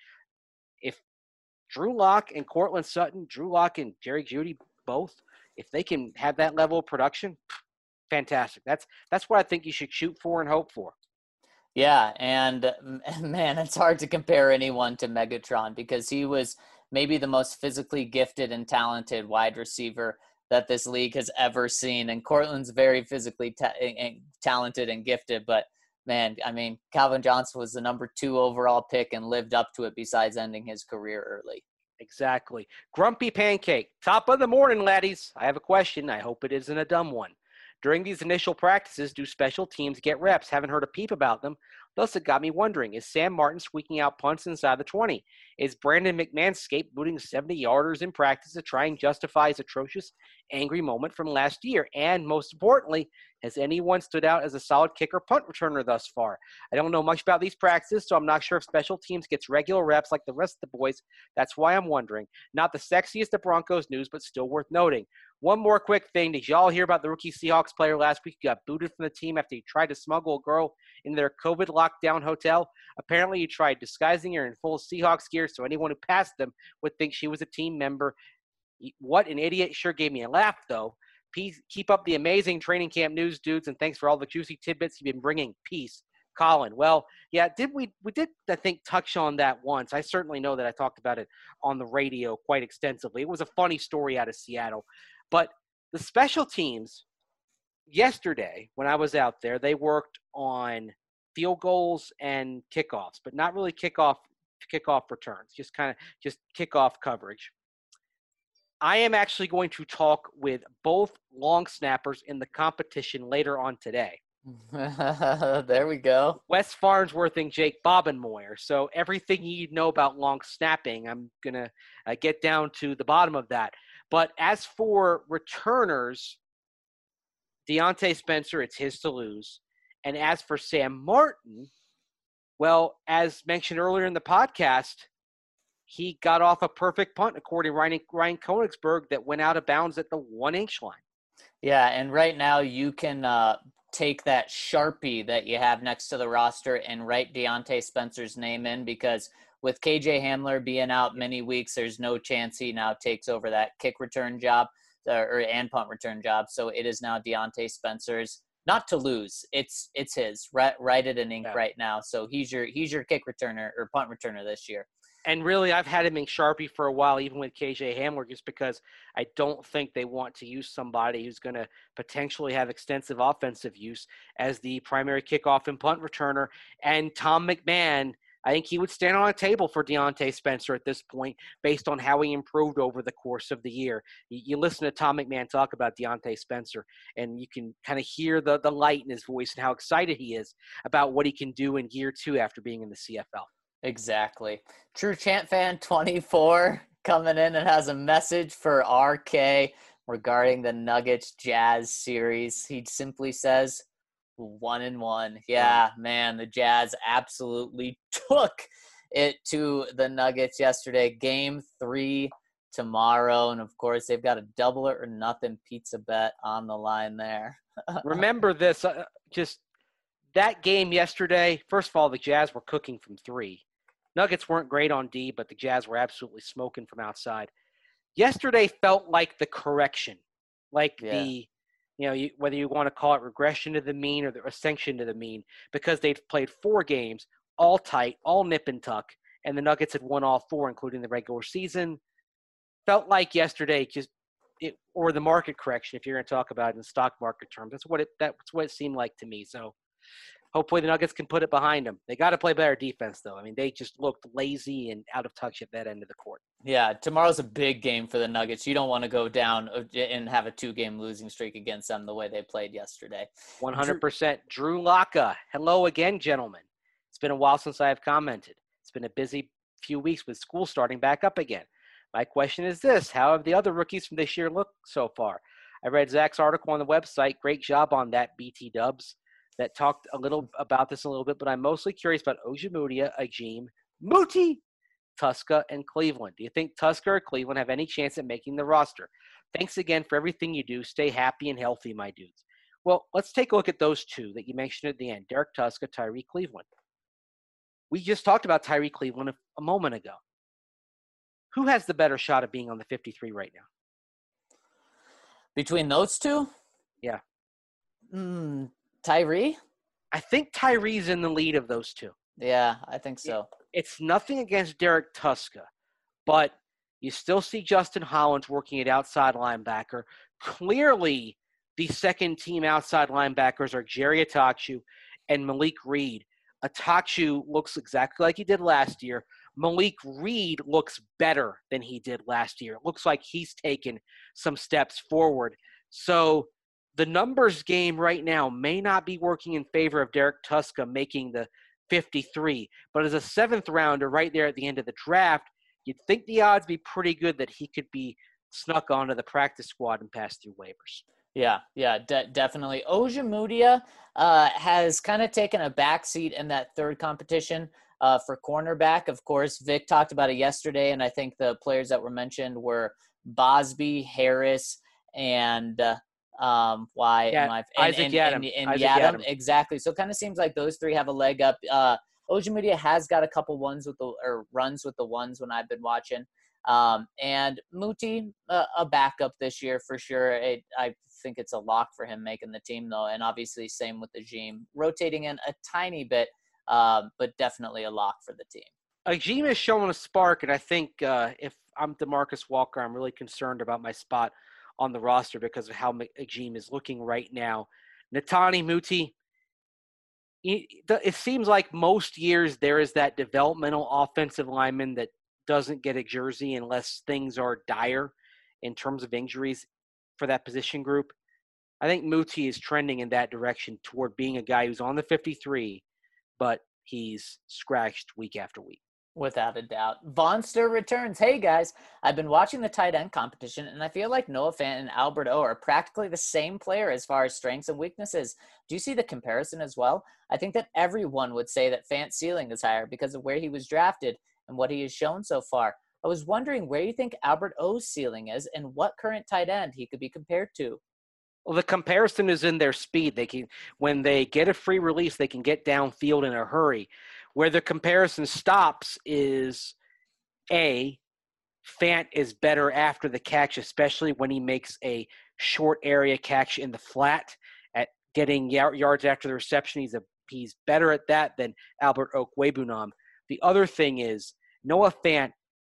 If Drew Lock and Courtland Sutton, Drew Lock and Jerry Jeudy both, if they can have that level of production, fantastic. That's that's what I think you should shoot for and hope for. Yeah, and man, it's hard to compare anyone to Megatron because he was maybe the most physically gifted and talented wide receiver that this league has ever seen. And Cortland's very physically ta- and talented and gifted, but man, I mean, Calvin Johnson was the number two overall pick and lived up to it besides ending his career early. Exactly. Grumpy Pancake. Top of the morning, laddies. I have a question. I hope it isn't a dumb one. During these initial practices, do special teams get reps? Haven't heard a peep about them. Thus, it got me wondering, is Sam Martin squeaking out punts inside the twenty? Is Brandon McMahon scapegoating seventy-yarders in practice to try and justify his atrocious, angry moment from last year? And most importantly, has anyone stood out as a solid kicker punt returner thus far? I don't know much about these practices, so I'm not sure if special teams gets regular reps like the rest of the boys. That's why I'm wondering. Not the sexiest of Broncos news, but still worth noting. One more quick thing. Did y'all hear about the rookie Seahawks player last week who got booted from the team after he tried to smuggle a girl into their COVID lockdown hotel? Apparently, he tried disguising her in full Seahawks gear so anyone who passed them would think she was a team member. What an idiot. Sure gave me a laugh, though. Peace, keep up the amazing training camp news, dudes, and thanks for all the juicy tidbits you've been bringing. Peace. Colin. Well, yeah, did we we did, I think, touch on that once. I certainly know that I talked about it on the radio quite extensively. It was a funny story out of Seattle. But the special teams, yesterday when I was out there, they worked on field goals and kickoffs, but not really kickoff kickoff returns, just kind of just kickoff coverage. I am actually going to talk with both long snappers in the competition later on today. There we go. Wes Farnsworth and Jake Bobenmoyer. So everything you know about long snapping, I'm going to uh, get down to the bottom of that. But as for returners, Deontay Spencer, it's his to lose. And as for Sam Martin, well, as mentioned earlier in the podcast, he got off a perfect punt, according to Ryan, Ryan Koenigsberg, that went out of bounds at the one-inch line. Yeah, and right now you can uh, take that Sharpie that you have next to the roster and write Deontay Spencer's name in, because with K J Hamler being out many weeks, there's no chance he now takes over that kick return job uh, or and punt return job. So it is now Deontay Spencer's. Not to lose, it's it's his. Write, write it in ink Yeah. right now. So he's your he's your kick returner or punt returner this year. And really, I've had him in Sharpie for a while, even with K J Hamler, just because I don't think they want to use somebody who's going to potentially have extensive offensive use as the primary kickoff and punt returner. And Tom McMahon, I think he would stand on a table for Deontay Spencer at this point based on how he improved over the course of the year. You, you listen to Tom McMahon talk about Deontay Spencer, and you can kind of hear the, the light in his voice and how excited he is about what he can do in year two after being in the C F L. Exactly. True Chant Fan twenty-four coming in and has a message for R K regarding the Nuggets Jazz series. He simply says, one and one. Yeah, man, the Jazz absolutely took it to the Nuggets yesterday. Game three tomorrow. And of course, they've got a double it or nothing pizza bet on the line there. Remember this, uh, just that game yesterday, first of all, the Jazz were cooking from three. Nuggets weren't great on D, but the Jazz were absolutely smoking from outside. Yesterday felt like the correction, like Yeah. the, you know, you, whether you want to call it regression to the mean or the ascension to the mean, because they'd played four games, all tight, all nip and tuck, and the Nuggets had won all four, including the regular season. Felt like yesterday just it, or the market correction, if you're going to talk about it in stock market terms. That's what it that's what it seemed like to me. So hopefully the Nuggets can put it behind them. They got to play better defense, though. I mean, they just looked lazy and out of touch at that end of the court. Yeah, tomorrow's a big game for the Nuggets. You don't want to go down and have a two-game losing streak against them the way they played yesterday. one hundred percent. Drew Locka. Hello again, gentlemen. It's been a while since I have commented. It's been a busy few weeks with school starting back up again. My question is this: how have the other rookies from this year looked so far? I read Zach's article on the website. Great job on that, B T Dubs, that talked a little about this a little bit, but I'm mostly curious about Ojemudia, Agim, Muti, Tuska, and Cleveland. Do you think Tuska or Cleveland have any chance at making the roster? Thanks again for everything you do. Stay happy and healthy, my dudes. Well, let's take a look at those two that you mentioned at the end, Derek Tuska, Tyree Cleveland. We just talked about Tyree Cleveland a, a moment ago. Who has the better shot of being on the fifty-three right now? Between those two? Yeah. Mm, Tyree? I think Tyree's in the lead of those two. Yeah, I think so. It's nothing against Derek Tuska, but you still see Justin Hollins working at outside linebacker. Clearly, the second-team outside linebackers are Jerry Atachu and Malik Reed. Atachu looks exactly like he did last year. Malik Reed looks better than he did last year. It looks like he's taken some steps forward. So the numbers game right now may not be working in favor of Derek Tuska making the fifty-three, but as a seventh rounder right there at the end of the draft, you'd think the odds be pretty good that he could be snuck onto the practice squad and pass through waivers. Yeah, yeah, de- definitely. Ojemudia uh, has kind of taken a backseat in that third competition uh, for cornerback. Of course, Vic talked about it yesterday, and I think the players that were mentioned were Bosby, Harris, and uh, um, why yeah, am I – Isaac and, Yadam. And, and, and Isaac Yadam. Yadam. Exactly. So it kind of seems like those three have a leg up. Uh, Ojemudia has got a couple ones with the or runs with the ones when I've been watching. Um, and Muti, uh, a backup this year for sure. It, I think it's a lock for him making the team, though. And obviously, same with Agim, rotating in a tiny bit, uh, but definitely a lock for the team. Agim has shown a spark, and I think uh, if I'm DeMarcus Walker, I'm really concerned about my spot on the roster because of how Agim is looking right now. Netani Muti, it seems like most years there is that developmental offensive lineman that doesn't get a jersey unless things are dire in terms of injuries for that position group. I think Muti is trending in that direction toward being a guy who's on the fifty-three, but he's scratched week after week. Without a doubt. Vonster returns. Hey, guys, I've been watching the tight end competition, and I feel like Noah Fant and Albert O are practically the same player as far as strengths and weaknesses. Do you see the comparison as well? I think that everyone would say that Fant's ceiling is higher because of where he was drafted and what he has shown so far. I was wondering where you think Albert O's ceiling is and what current tight end he could be compared to. Well, the comparison is in their speed. They can, when they get a free release, they can get downfield in a hurry. Where the comparison stops is, A, Fant is better after the catch, especially when he makes a short area catch in the flat at getting yards after the reception. He's a he's better at that than Albert Okwuegbunam. The other thing is Noah Fant,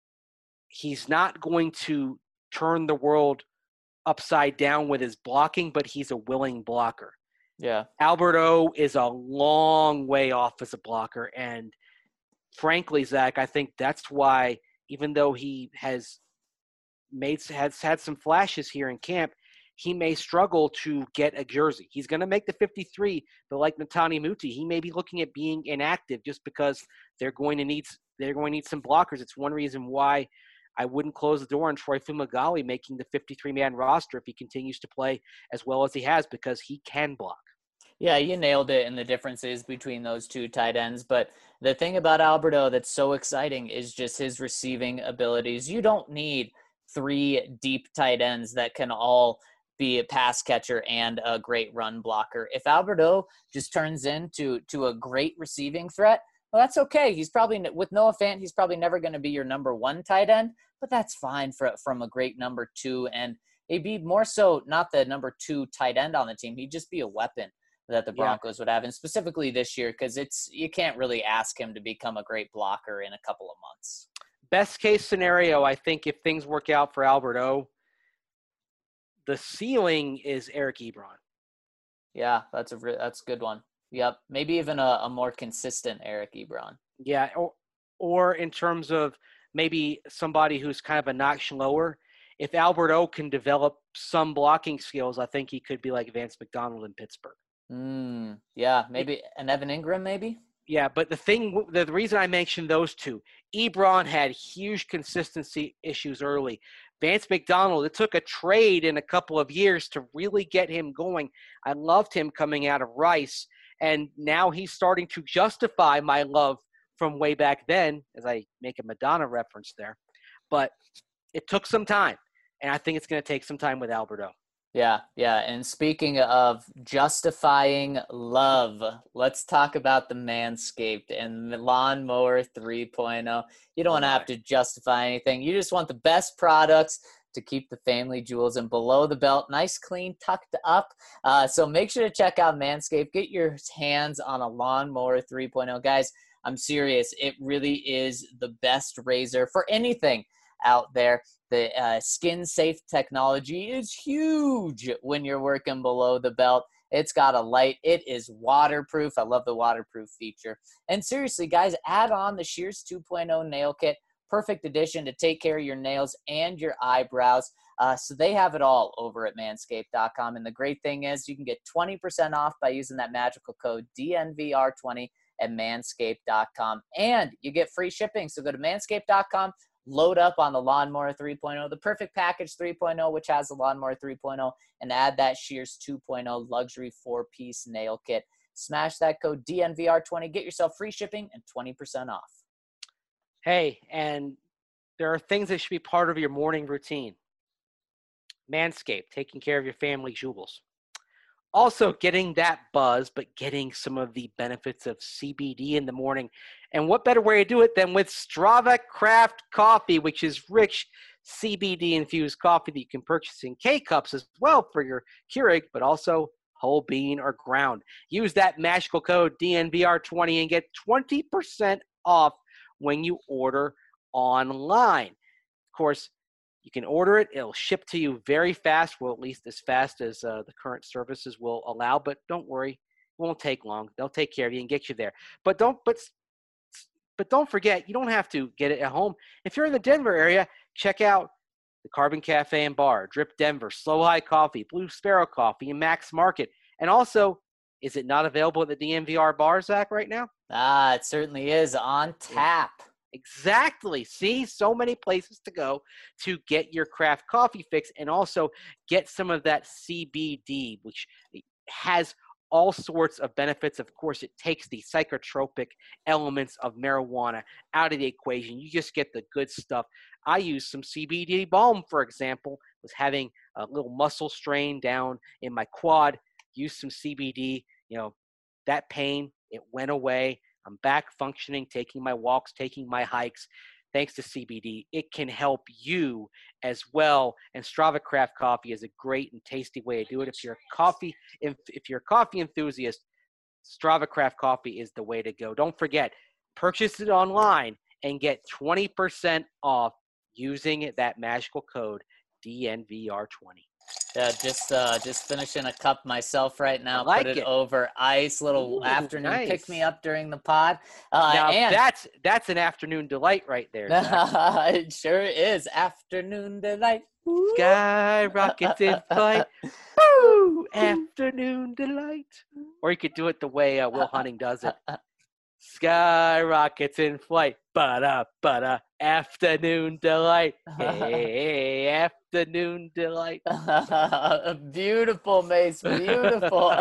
he's not going to turn the world upside down with his blocking, but he's a willing blocker. Yeah. Albert O is a long way off as a blocker. And frankly, Zach, I think that's why, even though he has made has had some flashes here in camp, he may struggle to get a jersey. He's going to make the fifty-three, but like Netani Muti, he may be looking at being inactive just because they're going to need they're going to need some blockers. It's one reason why I wouldn't close the door on Troy Fumagalli making the fifty-three-man roster if he continues to play as well as he has, because he can block. Yeah, you nailed it in the differences between those two tight ends. But the thing about Alberto that's so exciting is just his receiving abilities. You don't need three deep tight ends that can all be a pass catcher and a great run blocker. If Alberto just turns into to a great receiving threat, Well, that's okay. He's probably, with Noah Fant, he's probably never going to be your number one tight end, but that's fine for, from a great number two. And he'd be more so not the number two tight end on the team. He'd just be a weapon that the Broncos yeah. would have, and specifically this year, because it's you can't really ask him to become a great blocker in a couple of months. Best case scenario, I think if things work out for Albert O, the ceiling is Eric Ebron. Yeah, that's a that's a good one. Yep, maybe even a, a more consistent Eric Ebron. Yeah, or, or in terms of maybe somebody who's kind of a notch lower. If Albert O can develop some blocking skills, I think he could be like Vance McDonald in Pittsburgh. Mm, yeah, maybe an Evan Ingram, maybe. Yeah, but the thing, the reason I mentioned those two, Ebron had huge consistency issues early. Vance McDonald, it took a trade in a couple of years to really get him going. I loved him coming out of Rice, and now he's starting to justify my love from way back then, as I make a Madonna reference there. But it took some time, and I think it's going to take some time with Albert O. Yeah, yeah. And speaking of justifying love, let's talk about the Manscaped and the Lawnmower three point oh. You don't want to have to justify anything. You just want the best products to keep the family jewels and below the belt nice, clean, tucked up. Uh, so make sure to check out Manscaped. Get your hands on a Lawnmower three point oh. Guys, I'm serious. It really is the best razor for anything out there. The uh, skin-safe technology is huge when you're working below the belt. It's got a light. It is waterproof. I love the waterproof feature. And seriously, guys, add on the Shears two point oh nail kit. Perfect addition to take care of your nails and your eyebrows. Uh, so they have it all over at manscaped dot com. And the great thing is you can get twenty percent off by using that magical code D N V R twenty at manscaped dot com. And you get free shipping. So go to manscaped dot com. Load up on the Lawnmower three point oh, the Perfect Package three point oh, which has the Lawnmower three point oh, and add that Shears two point oh luxury four-piece nail kit. Smash that code D N V R twenty. Get yourself free shipping and twenty percent off. Hey, and there are things that should be part of your morning routine. Manscaped, taking care of your family jewels. Also getting that buzz, but getting some of the benefits of C B D in the morning. And what better way to do it than with Strava Craft Coffee, which is rich C B D-infused coffee that you can purchase in K-Cups as well for your Keurig, but also whole bean or ground. Use that magical code D N V R twenty and get twenty percent off when you order online. Of course, you can order it. It'll ship to you very fast, well, at least as fast as uh, the current services will allow. But don't worry, it won't take long. They'll take care of you and get you there. But don't, but, but don't forget, you don't have to get it at home. If you're in the Denver area, check out the Carbon Cafe and Bar, Drip Denver, Slow High Coffee, Blue Sparrow Coffee, and Max Market. And also, is it not available at the D N V R bar, Zach, right now? Ah, it certainly is on tap. Exactly. See, so many places to go to get your craft coffee fix and also get some of that C B D, which has all sorts of benefits. Of course, it takes the psychotropic elements of marijuana out of the equation. You just get the good stuff. I use some C B D balm, for example, was having a little muscle strain down in my quad, used some C B D, you know, that pain, it went away. I'm back functioning, taking my walks, taking my hikes. Thanks to C B D, it can help you as well. And Strava Craft Coffee is a great and tasty way to do it. If you're a coffee, if, if you're a coffee enthusiast, Strava Craft Coffee is the way to go. Don't forget, purchase it online and get twenty percent off using that magical code D N V R twenty. Yeah, just uh, just finishing a cup myself right now. I like Put it, it over ice. Little Ooh, afternoon nice. pick me up during the pod. Uh, now and that's that's an afternoon delight right there. Zach. It sure is afternoon delight. Sky rockets in flight. Woo! Afternoon delight. Or you could do it the way uh, Will Hunting does it. Sky rockets in flight. Ba-da, ba-da. Afternoon delight. Hey, afternoon delight. Beautiful, Mace. Beautiful.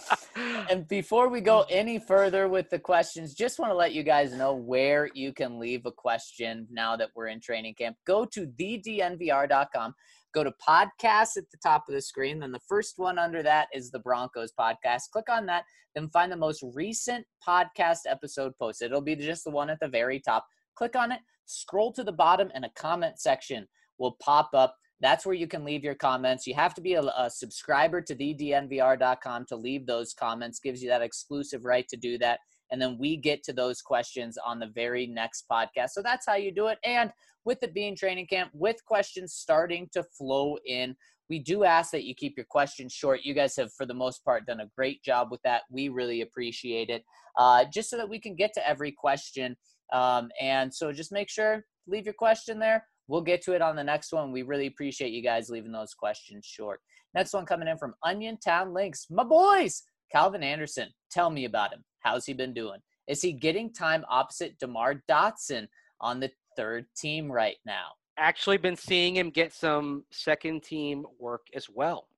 And before we go any further with the questions, just want to let you guys know where you can leave a question now that we're in training camp. Go to the D N V R dot com. Go to podcasts at the top of the screen. Then the first one under that is the Broncos podcast. Click on that. Then find the most recent podcast episode posted. It'll be just the one at the very top. Click on it. Scroll to the bottom and a comment section will pop up. That's where you can leave your comments. You have to be a, a subscriber to the d n v r dot com to leave those comments. Gives you that exclusive right to do that. And then we get to those questions on the very next podcast. So that's how you do it. And with it being training camp, with questions starting to flow in, we do ask that you keep your questions short. You guys have, for the most part, done a great job with that. We really appreciate it, uh, just so that we can get to every question. Um, and so just make sure, leave your question there. We'll get to it on the next one. We really appreciate you guys leaving those questions short. Next one coming in from Onion Town Links. My boys, Calvin Anderson, tell me about him. How's he been doing? Is he getting time opposite DeMar Dotson on the third team right now? Actually been seeing him get some second team work as well.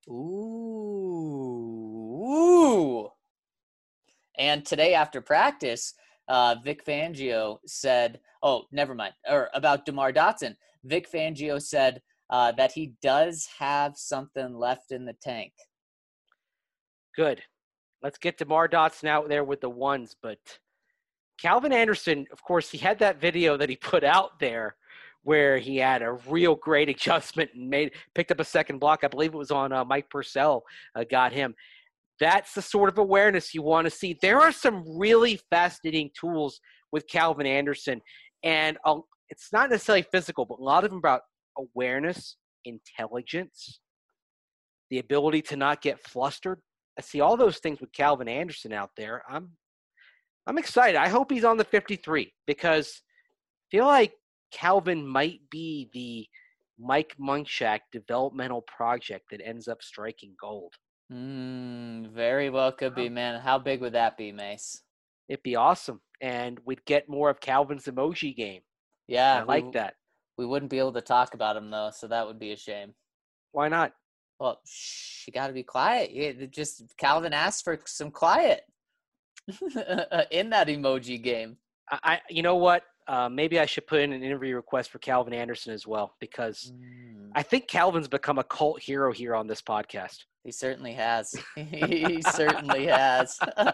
Ooh. Ooh. And today after practice, uh, Vic Fangio said, oh, never mind, or about DeMar Dotson. Vic Fangio said uh, that he does have something left in the tank. Good. Let's get DeMar Dotson out there with the ones. But Calvin Anderson, of course, he had that video that he put out there where he had a real great adjustment and made picked up a second block. I believe it was on uh, Mike Purcell uh, got him. That's the sort of awareness you want to see. There are some really fascinating tools with Calvin Anderson. And uh, it's not necessarily physical, but a lot of them about awareness, intelligence, the ability to not get flustered. I see all those things with Calvin Anderson out there. I'm I'm excited. I hope he's on the fifty-three because I feel like Calvin might be the Mike Munchak developmental project that ends up striking gold. Mm, very well could be, man. How big would that be, Mace? It'd be awesome. And we'd get more of Calvin's emoji game. Yeah. I like we, that. We wouldn't be able to talk about him, though, so that would be a shame. Why not? Well, shh, you got to be quiet. You, just Calvin asked for some quiet in that emoji game. I, I you know what? Uh, maybe I should put in an interview request for Calvin Anderson as well because mm. I think Calvin's become a cult hero here on this podcast. He certainly has. He certainly has.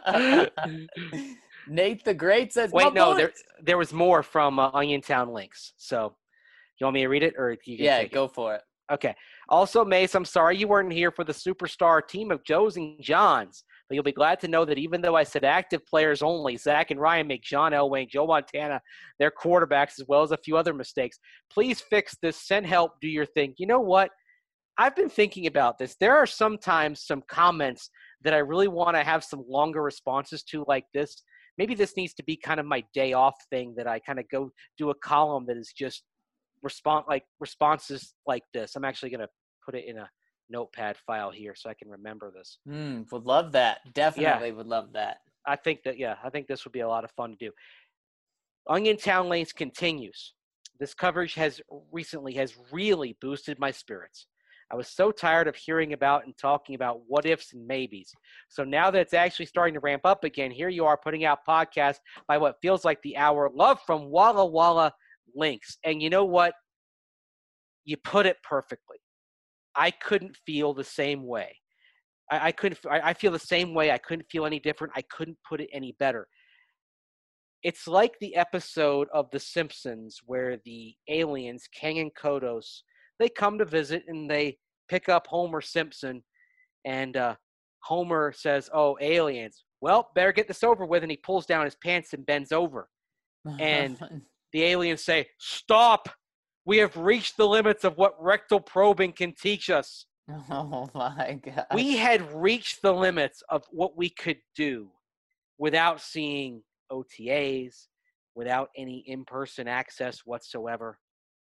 Nate the Great says, wait, no, there there was more from uh, Onion Town Links. So you want me to read it or you can yeah, take go it? for it. Okay. Also, Mace, I'm sorry you weren't here for the superstar team of Joes and Johns, but you'll be glad to know that even though I said active players only, Zach and Ryan make John Elway and Joe Montana their quarterbacks as well as a few other mistakes. Please fix this. Send help. Do your thing. You know what? I've been thinking about this. There are sometimes some comments that I really want to have some longer responses to like this. Maybe this needs to be kind of my day off thing that I kind of go do a column that is just respond like responses like this. I'm actually going to put it in a notepad file here so I can remember this. Mm, would love that. Definitely yeah. would love that. I think that, yeah, I think this would be a lot of fun to do. Onion Town Lanes continues. This coverage has recently has really boosted my spirits. I was so tired of hearing about and talking about what ifs and maybes. So now that it's actually starting to ramp up again, here you are putting out podcasts by what feels like the hour. Love from Walla Walla Links. And you know what? You put it perfectly. I couldn't feel the same way. I, I couldn't. I, I feel the same way. I couldn't feel any different. I couldn't put it any better. It's like the episode of The Simpsons where the aliens, Kang and Kodos, they come to visit and they pick up Homer Simpson, and uh, Homer says, "Oh, aliens! Well, better get this over with." And he pulls down his pants and bends over, and the aliens say, "Stop! We have reached the limits of what rectal probing can teach us." Oh my God! We had reached the limits of what we could do without seeing O T As, without any in-person access whatsoever.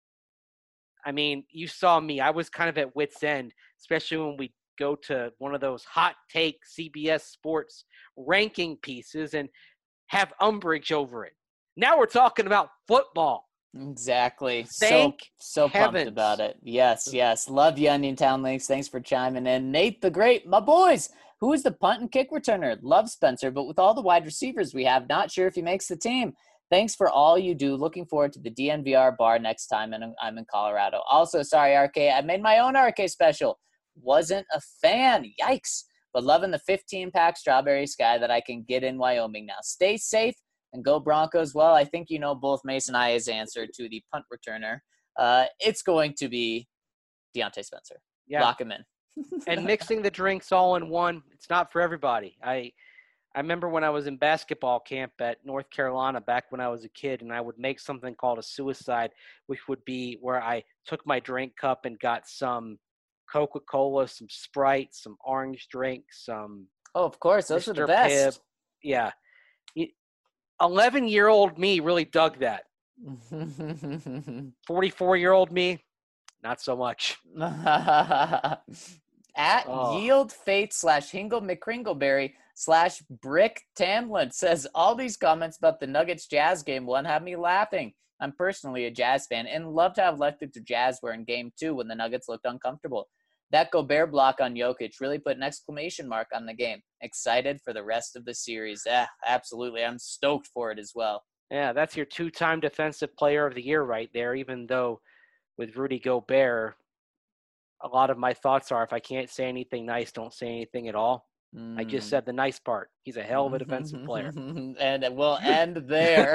I mean, you saw me. I was kind of at wit's end, especially when we go to one of those hot take C B S Sports ranking pieces and have umbrage over it. Now we're talking about football. Exactly. Thank so so heavens. pumped about it. Yes, yes. Love you, Onion Town Links. Thanks for chiming in. Nate the Great, my boys. Who is the punt and kick returner? Love Spencer, but with all the wide receivers we have, not sure if he makes the team. Thanks for all you do. Looking forward to the D N V R bar next time and I'm in Colorado. Also, sorry, R K, I made my own R K special. Wasn't a fan. Yikes. But loving the fifteen-pack Strawberry Sky that I can get in Wyoming now. Stay safe and go Broncos. Well, I think you know both Mason and I's answer to the punt returner. Uh, it's going to be Deontay Spencer. Yeah. Lock him in. And mixing the drinks all in one, it's not for everybody. I I remember when I was in basketball camp at North Carolina back when I was a kid, and I would make something called a suicide, which would be where I took my drink cup and got some Coca-Cola, some Sprite, some orange drink, some Oh, of course. Those Mister are the best. Pibb. Yeah. eleven-year-old me really dug that. forty-four-year-old me, not so much. At Oh. Yield Fate slash Hingle McCringleberry slash Brick Tamlin says all these comments about the Nuggets Jazz game one have me laughing. I'm personally a Jazz fan and love to have left it to Jazz were in game two when the Nuggets looked uncomfortable. That Gobert block on Jokic really put an exclamation mark on the game. Excited for the rest of the series. Ah, absolutely. I'm stoked for it as well. Yeah, that's your two-time defensive player of the year right there, even though with Rudy Gobert, a lot of my thoughts are if I can't say anything nice, don't say anything at all. Mm. I just said the nice part. He's a hell of a defensive player. And we'll end there.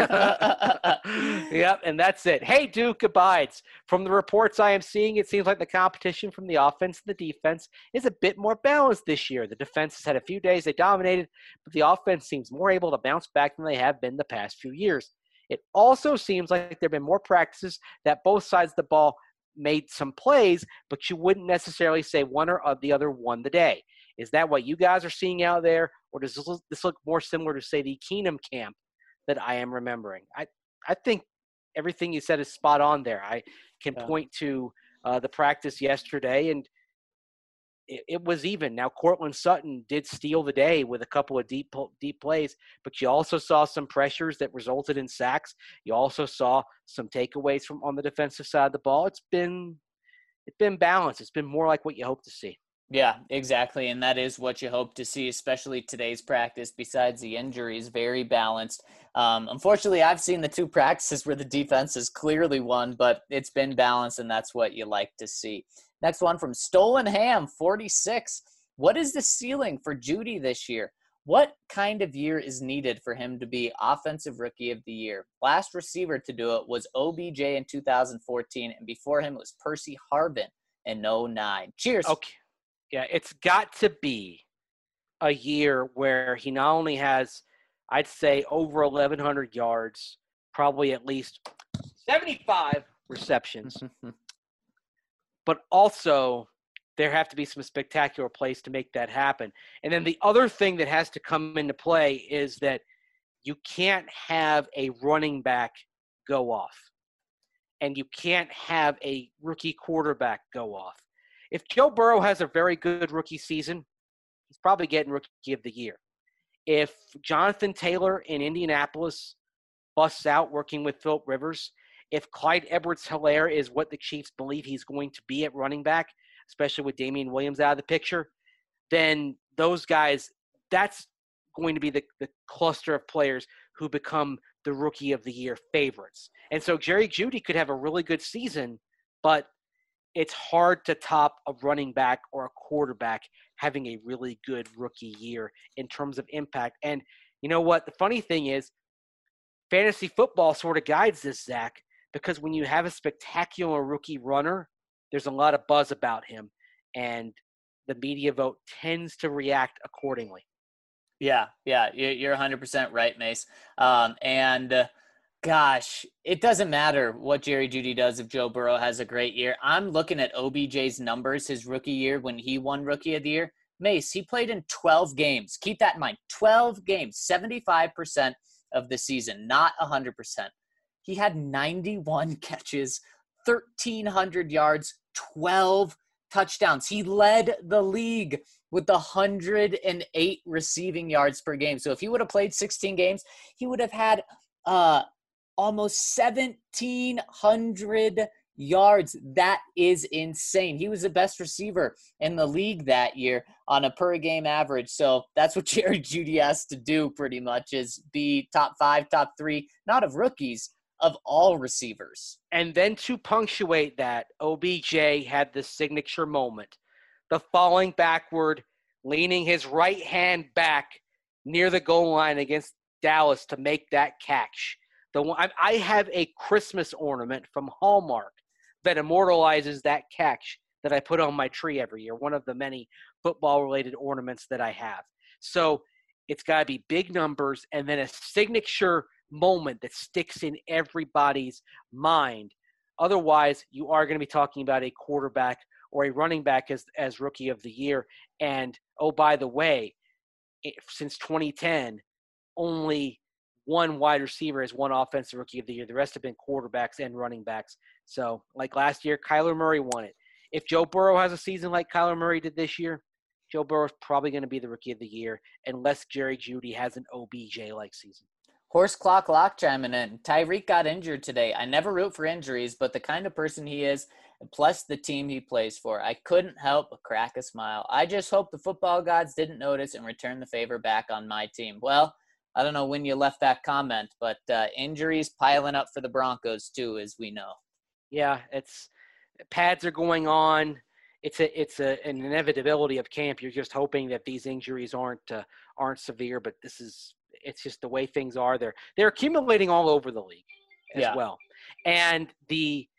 Yep, and that's it. Hey, Duke abides. From the reports I am seeing, it seems like the competition from the offense and the defense is a bit more balanced this year. The defense has had a few days they dominated, but the offense seems more able to bounce back than they have been the past few years. It also seems like there have been more practices that both sides of the ball made some plays, but you wouldn't necessarily say one or the other won the day. Is that what you guys are seeing out there, or does this look, this look more similar to, say, the Keenum camp that I am remembering? I, I think everything you said is spot on there. I can Yeah. point to uh, the practice yesterday, and it, it was even. Now, Cortland Sutton did steal the day with a couple of deep deep plays, but you also saw some pressures that resulted in sacks. You also saw some takeaways from on the defensive side of the ball. It's been it's been balanced. It's been more like what you hope to see. Yeah, exactly. And that is what you hope to see, especially today's practice, besides the injuries, very balanced. Um, unfortunately, I've seen the two practices where the defense has clearly won, but it's been balanced, and that's what you like to see. Next one from Stolen Ham, forty-six. What is the ceiling for Jeudy this year? What kind of year is needed for him to be Offensive Rookie of the Year? Last receiver to do it was O B J in two thousand fourteen, and before him it was Percy Harvin in oh nine. Cheers. Okay. Yeah, it's got to be a year where he not only has, I'd say, over eleven hundred yards, probably at least seventy-five receptions, but also there have to be some spectacular plays to make that happen. And then the other thing that has to come into play is that you can't have a running back go off, and you can't have a rookie quarterback go off. If Joe Burrow has a very good rookie season, he's probably getting Rookie of the Year. If Jonathan Taylor in Indianapolis busts out working with Philip Rivers, if Clyde Edwards-Helaire is what the Chiefs believe he's going to be at running back, especially with Damian Williams out of the picture, then those guys, that's going to be the, the cluster of players who become the Rookie of the Year favorites. And so Jerry Jeudy could have a really good season, but it's hard to top a running back or a quarterback having a really good rookie year in terms of impact. And you know what? The funny thing is, fantasy football sort of guides this, Zach, because when you have a spectacular rookie runner, there's a lot of buzz about him, and the media vote tends to react accordingly. Yeah, yeah, you're one hundred percent right, Mace. Um, and uh, gosh, it doesn't matter what Jerry Jeudy does if Joe Burrow has a great year. I'm looking at O B J's numbers his rookie year when he won Rookie of the Year. Mace, he played in twelve games. Keep that in mind. twelve games, seventy-five percent of the season, not one hundred percent. He had ninety-one catches, thirteen hundred yards, twelve touchdowns. He led the league with one hundred eight receiving yards per game. So if he would have played sixteen games, he would have had uh, almost seventeen hundred yards. That is insane. He was the best receiver in the league that year on a per game average. So that's what Jerry Jeudy has to do pretty much, is be top five, top three, not of rookies, of all receivers. And then to punctuate that, O B J had the signature moment, the falling backward, leaning his right hand back near the goal line against Dallas to make that catch. The one, I have a Christmas ornament from Hallmark that immortalizes that catch that I put on my tree every year, one of the many football-related ornaments that I have. So it's got to be big numbers and then a signature moment that sticks in everybody's mind. Otherwise, you are going to be talking about a quarterback or a running back as, as rookie of the year. And, oh, by the way, it, since twenty ten, only one wide receiver has won offensive rookie of the year. The rest have been quarterbacks and running backs. So, like last year, Kyler Murray won it. If Joe Burrow has a season like Kyler Murray did this year, Joe Burrow is probably going to be the rookie of the year unless Jerry Jeudy has an O B J-like season. Horse Clock Lock chiming in. Tyreek got injured today. I never root for injuries, but the kind of person he is, plus the team he plays for, I couldn't help but crack a smile. I just hope the football gods didn't notice and return the favor back on my team. Well, I don't know when you left that comment, but uh, injuries piling up for the Broncos too, as we know. Yeah, it's pads are going on. It's a it's a, an inevitability of camp. You're just hoping that these injuries aren't uh, aren't severe, but this is it's just the way things are. They're they're accumulating all over the league as yeah. well. And the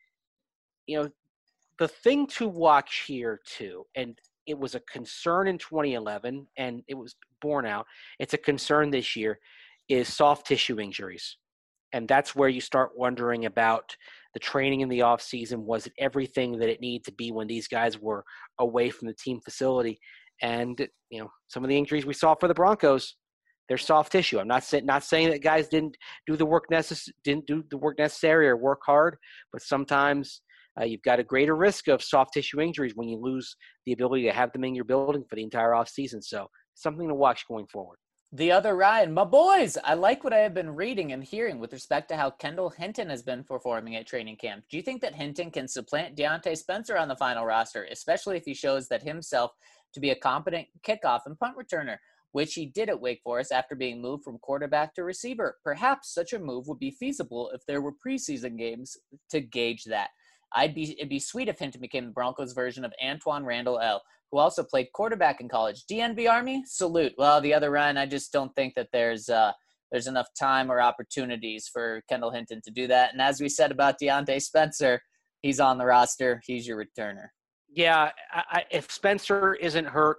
you know the thing to watch here too, and it was a concern in twenty eleven, and it was borne out. It's a concern this year, is soft tissue injuries. And that's where you start wondering about the training in the offseason. Was it everything that it needed to be when these guys were away from the team facility? And, you know, some of the injuries we saw for the Broncos, they're soft tissue. I'm not, say, not saying that guys didn't do the work necess- didn't do the work necessary or work hard, but sometimes uh, you've got a greater risk of soft tissue injuries when you lose the ability to have them in your building for the entire offseason. So something to watch going forward. The other Ryan, my boys, I like what I have been reading and hearing with respect to how Kendall Hinton has been performing at training camp. Do you think that Hinton can supplant Deontay Spencer on the final roster, especially if he shows that himself to be a competent kickoff and punt returner, which he did at Wake Forest after being moved from quarterback to receiver? Perhaps such a move would be feasible if there were preseason games to gauge that. I'd be it'd be sweet if Hinton became the Broncos' version of Antoine Randall L., who also played quarterback in college. D N B Army, salute. Well, the other Ryan, I just don't think that there's uh, there's enough time or opportunities for Kendall Hinton to do that. And as we said about Deontay Spencer, he's on the roster. He's your returner. Yeah, I, I, if Spencer isn't hurt,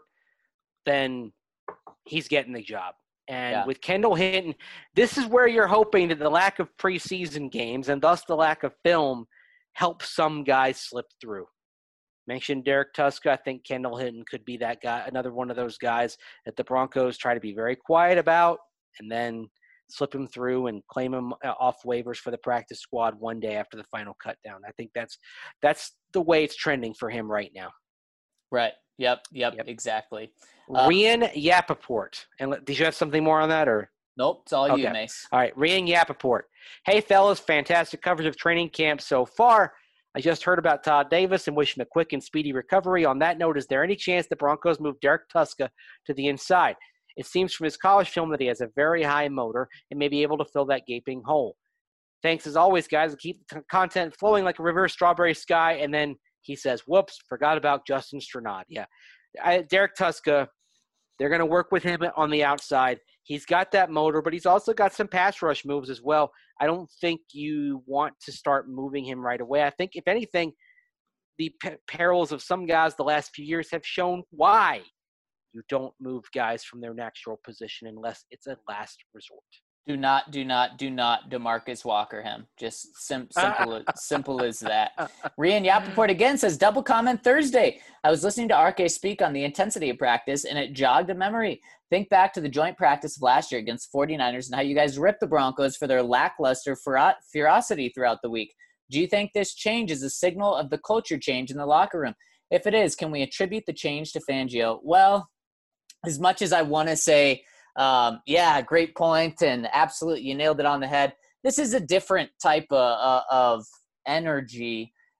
then he's getting the job. And yeah. with Kendall Hinton, this is where you're hoping that the lack of preseason games and thus the lack of film helps some guys slip through. Mentioned Derek Tuska. I think Kendall Hinton could be that guy, another one of those guys that the Broncos try to be very quiet about and then slip him through and claim him off waivers for the practice squad one day after the final cut down. I think that's that's the way it's trending for him right now. Right. Yep. Yep. yep. Exactly. Uh, Rian Yapaport. And did you have something more on that or? Nope. It's all okay. you, Mace. All right. Rian Yapaport. Hey, fellas. Fantastic coverage of training camp so far. I just heard about Todd Davis and wish him a quick and speedy recovery. On that note, is there any chance the Broncos move Derek Tuska to the inside? It seems from his college film that he has a very high motor and may be able to fill that gaping hole. Thanks as always, guys. Keep the content flowing like a reverse strawberry sky. And then he says, whoops, forgot about Justin Strnad. Yeah. I, Derek Tuska, they're going to work with him on the outside. He's got that motor, but he's also got some pass rush moves as well. I don't think you want to start moving him right away. I think, if anything, the p- perils of some guys the last few years have shown why you don't move guys from their natural position unless it's a last resort. Do not, do not, do not DeMarcus Walker him. Just sim- simple, simple as that. Rian Yapaport again says, double comment Thursday. I was listening to R K speak on the intensity of practice, and it jogged a memory. Think back to the joint practice of last year against forty-niners and how you guys ripped the Broncos for their lackluster fer- ferocity throughout the week. Do you think this change is a signal of the culture change in the locker room? If it is, can we attribute the change to Fangio? Well, as much as I want to say, Um, yeah, great point, and absolutely, you nailed it on the head. This is a different type of, uh, of energy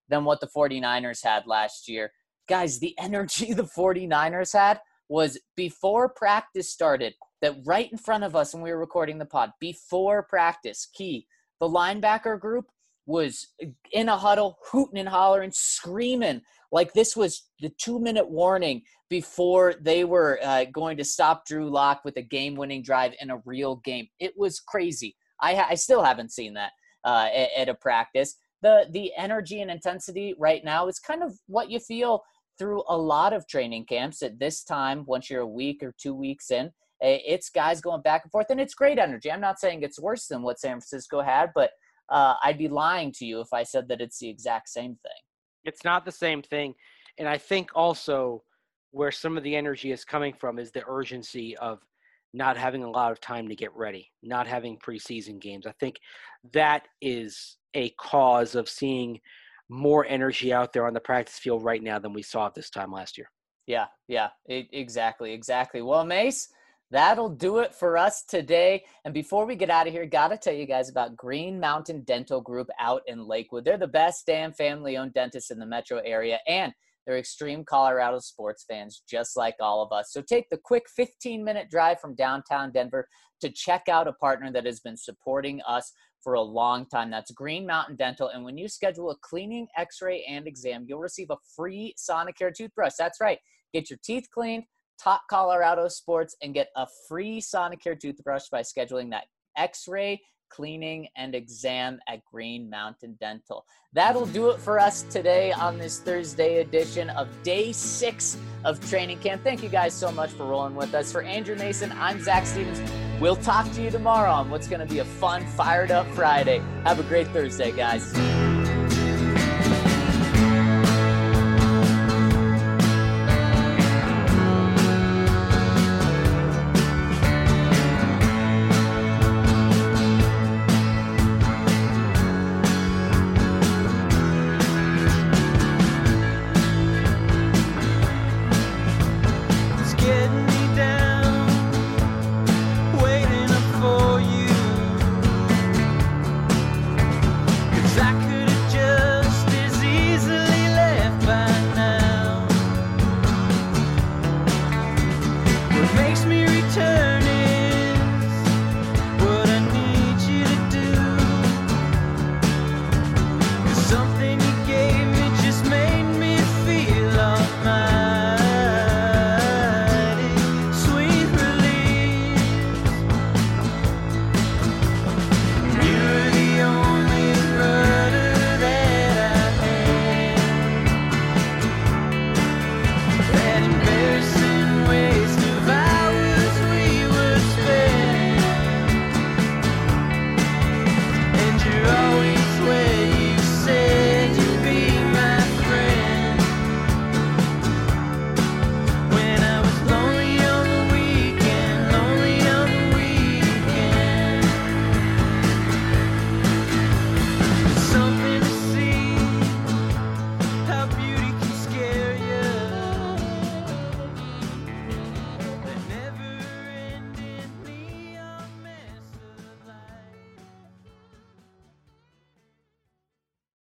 than what the 49ers had last year. Guys, the energy the 49ers had was before practice started, that right in front of us when we were recording the pod, before practice, key, the linebacker group was in a huddle, hooting and hollering, screaming like this was the two-minute warning before they were uh, going to stop Drew Lock with a game-winning drive in a real game. It was crazy. I, ha- I still haven't seen that uh, at, at a practice. The the energy and intensity right now is kind of what you feel through a lot of training camps at this time. Once you're a week or two weeks in, it's guys going back and forth, and it's great energy. I'm not saying it's worse than what San Francisco had, but uh, I'd be lying to you if I said that it's the exact same thing. It's not the same thing. And I think also where some of the energy is coming from is the urgency of not having a lot of time to get ready, not having preseason games. I think that is a cause of seeing more energy out there on the practice field right now than we saw at this time last year. Yeah, yeah, it, exactly, exactly. Well, Mace, that'll do it for us today. And before we get out of here, got to tell you guys about Green Mountain Dental Group out in Lakewood. They're the best damn family-owned dentists in the metro area, and they're extreme Colorado sports fans just like all of us. So take the quick fifteen-minute drive from downtown Denver to check out a partner that has been supporting us for a long time. That's Green Mountain Dental. And when you schedule a cleaning, x-ray, and exam, you'll receive a free Sonicare toothbrush. That's right. Get your teeth cleaned, talk Colorado sports, and get a free Sonicare toothbrush by scheduling that x-ray, cleaning, and exam at Green Mountain Dental. That'll do it for us today on this Thursday edition of day six of training camp. Thank you guys so much for rolling with us. For Andrew Mason, I'm Zach Stevens. We'll talk to you tomorrow on what's going to be a fun, fired up Friday. Have a great Thursday, guys.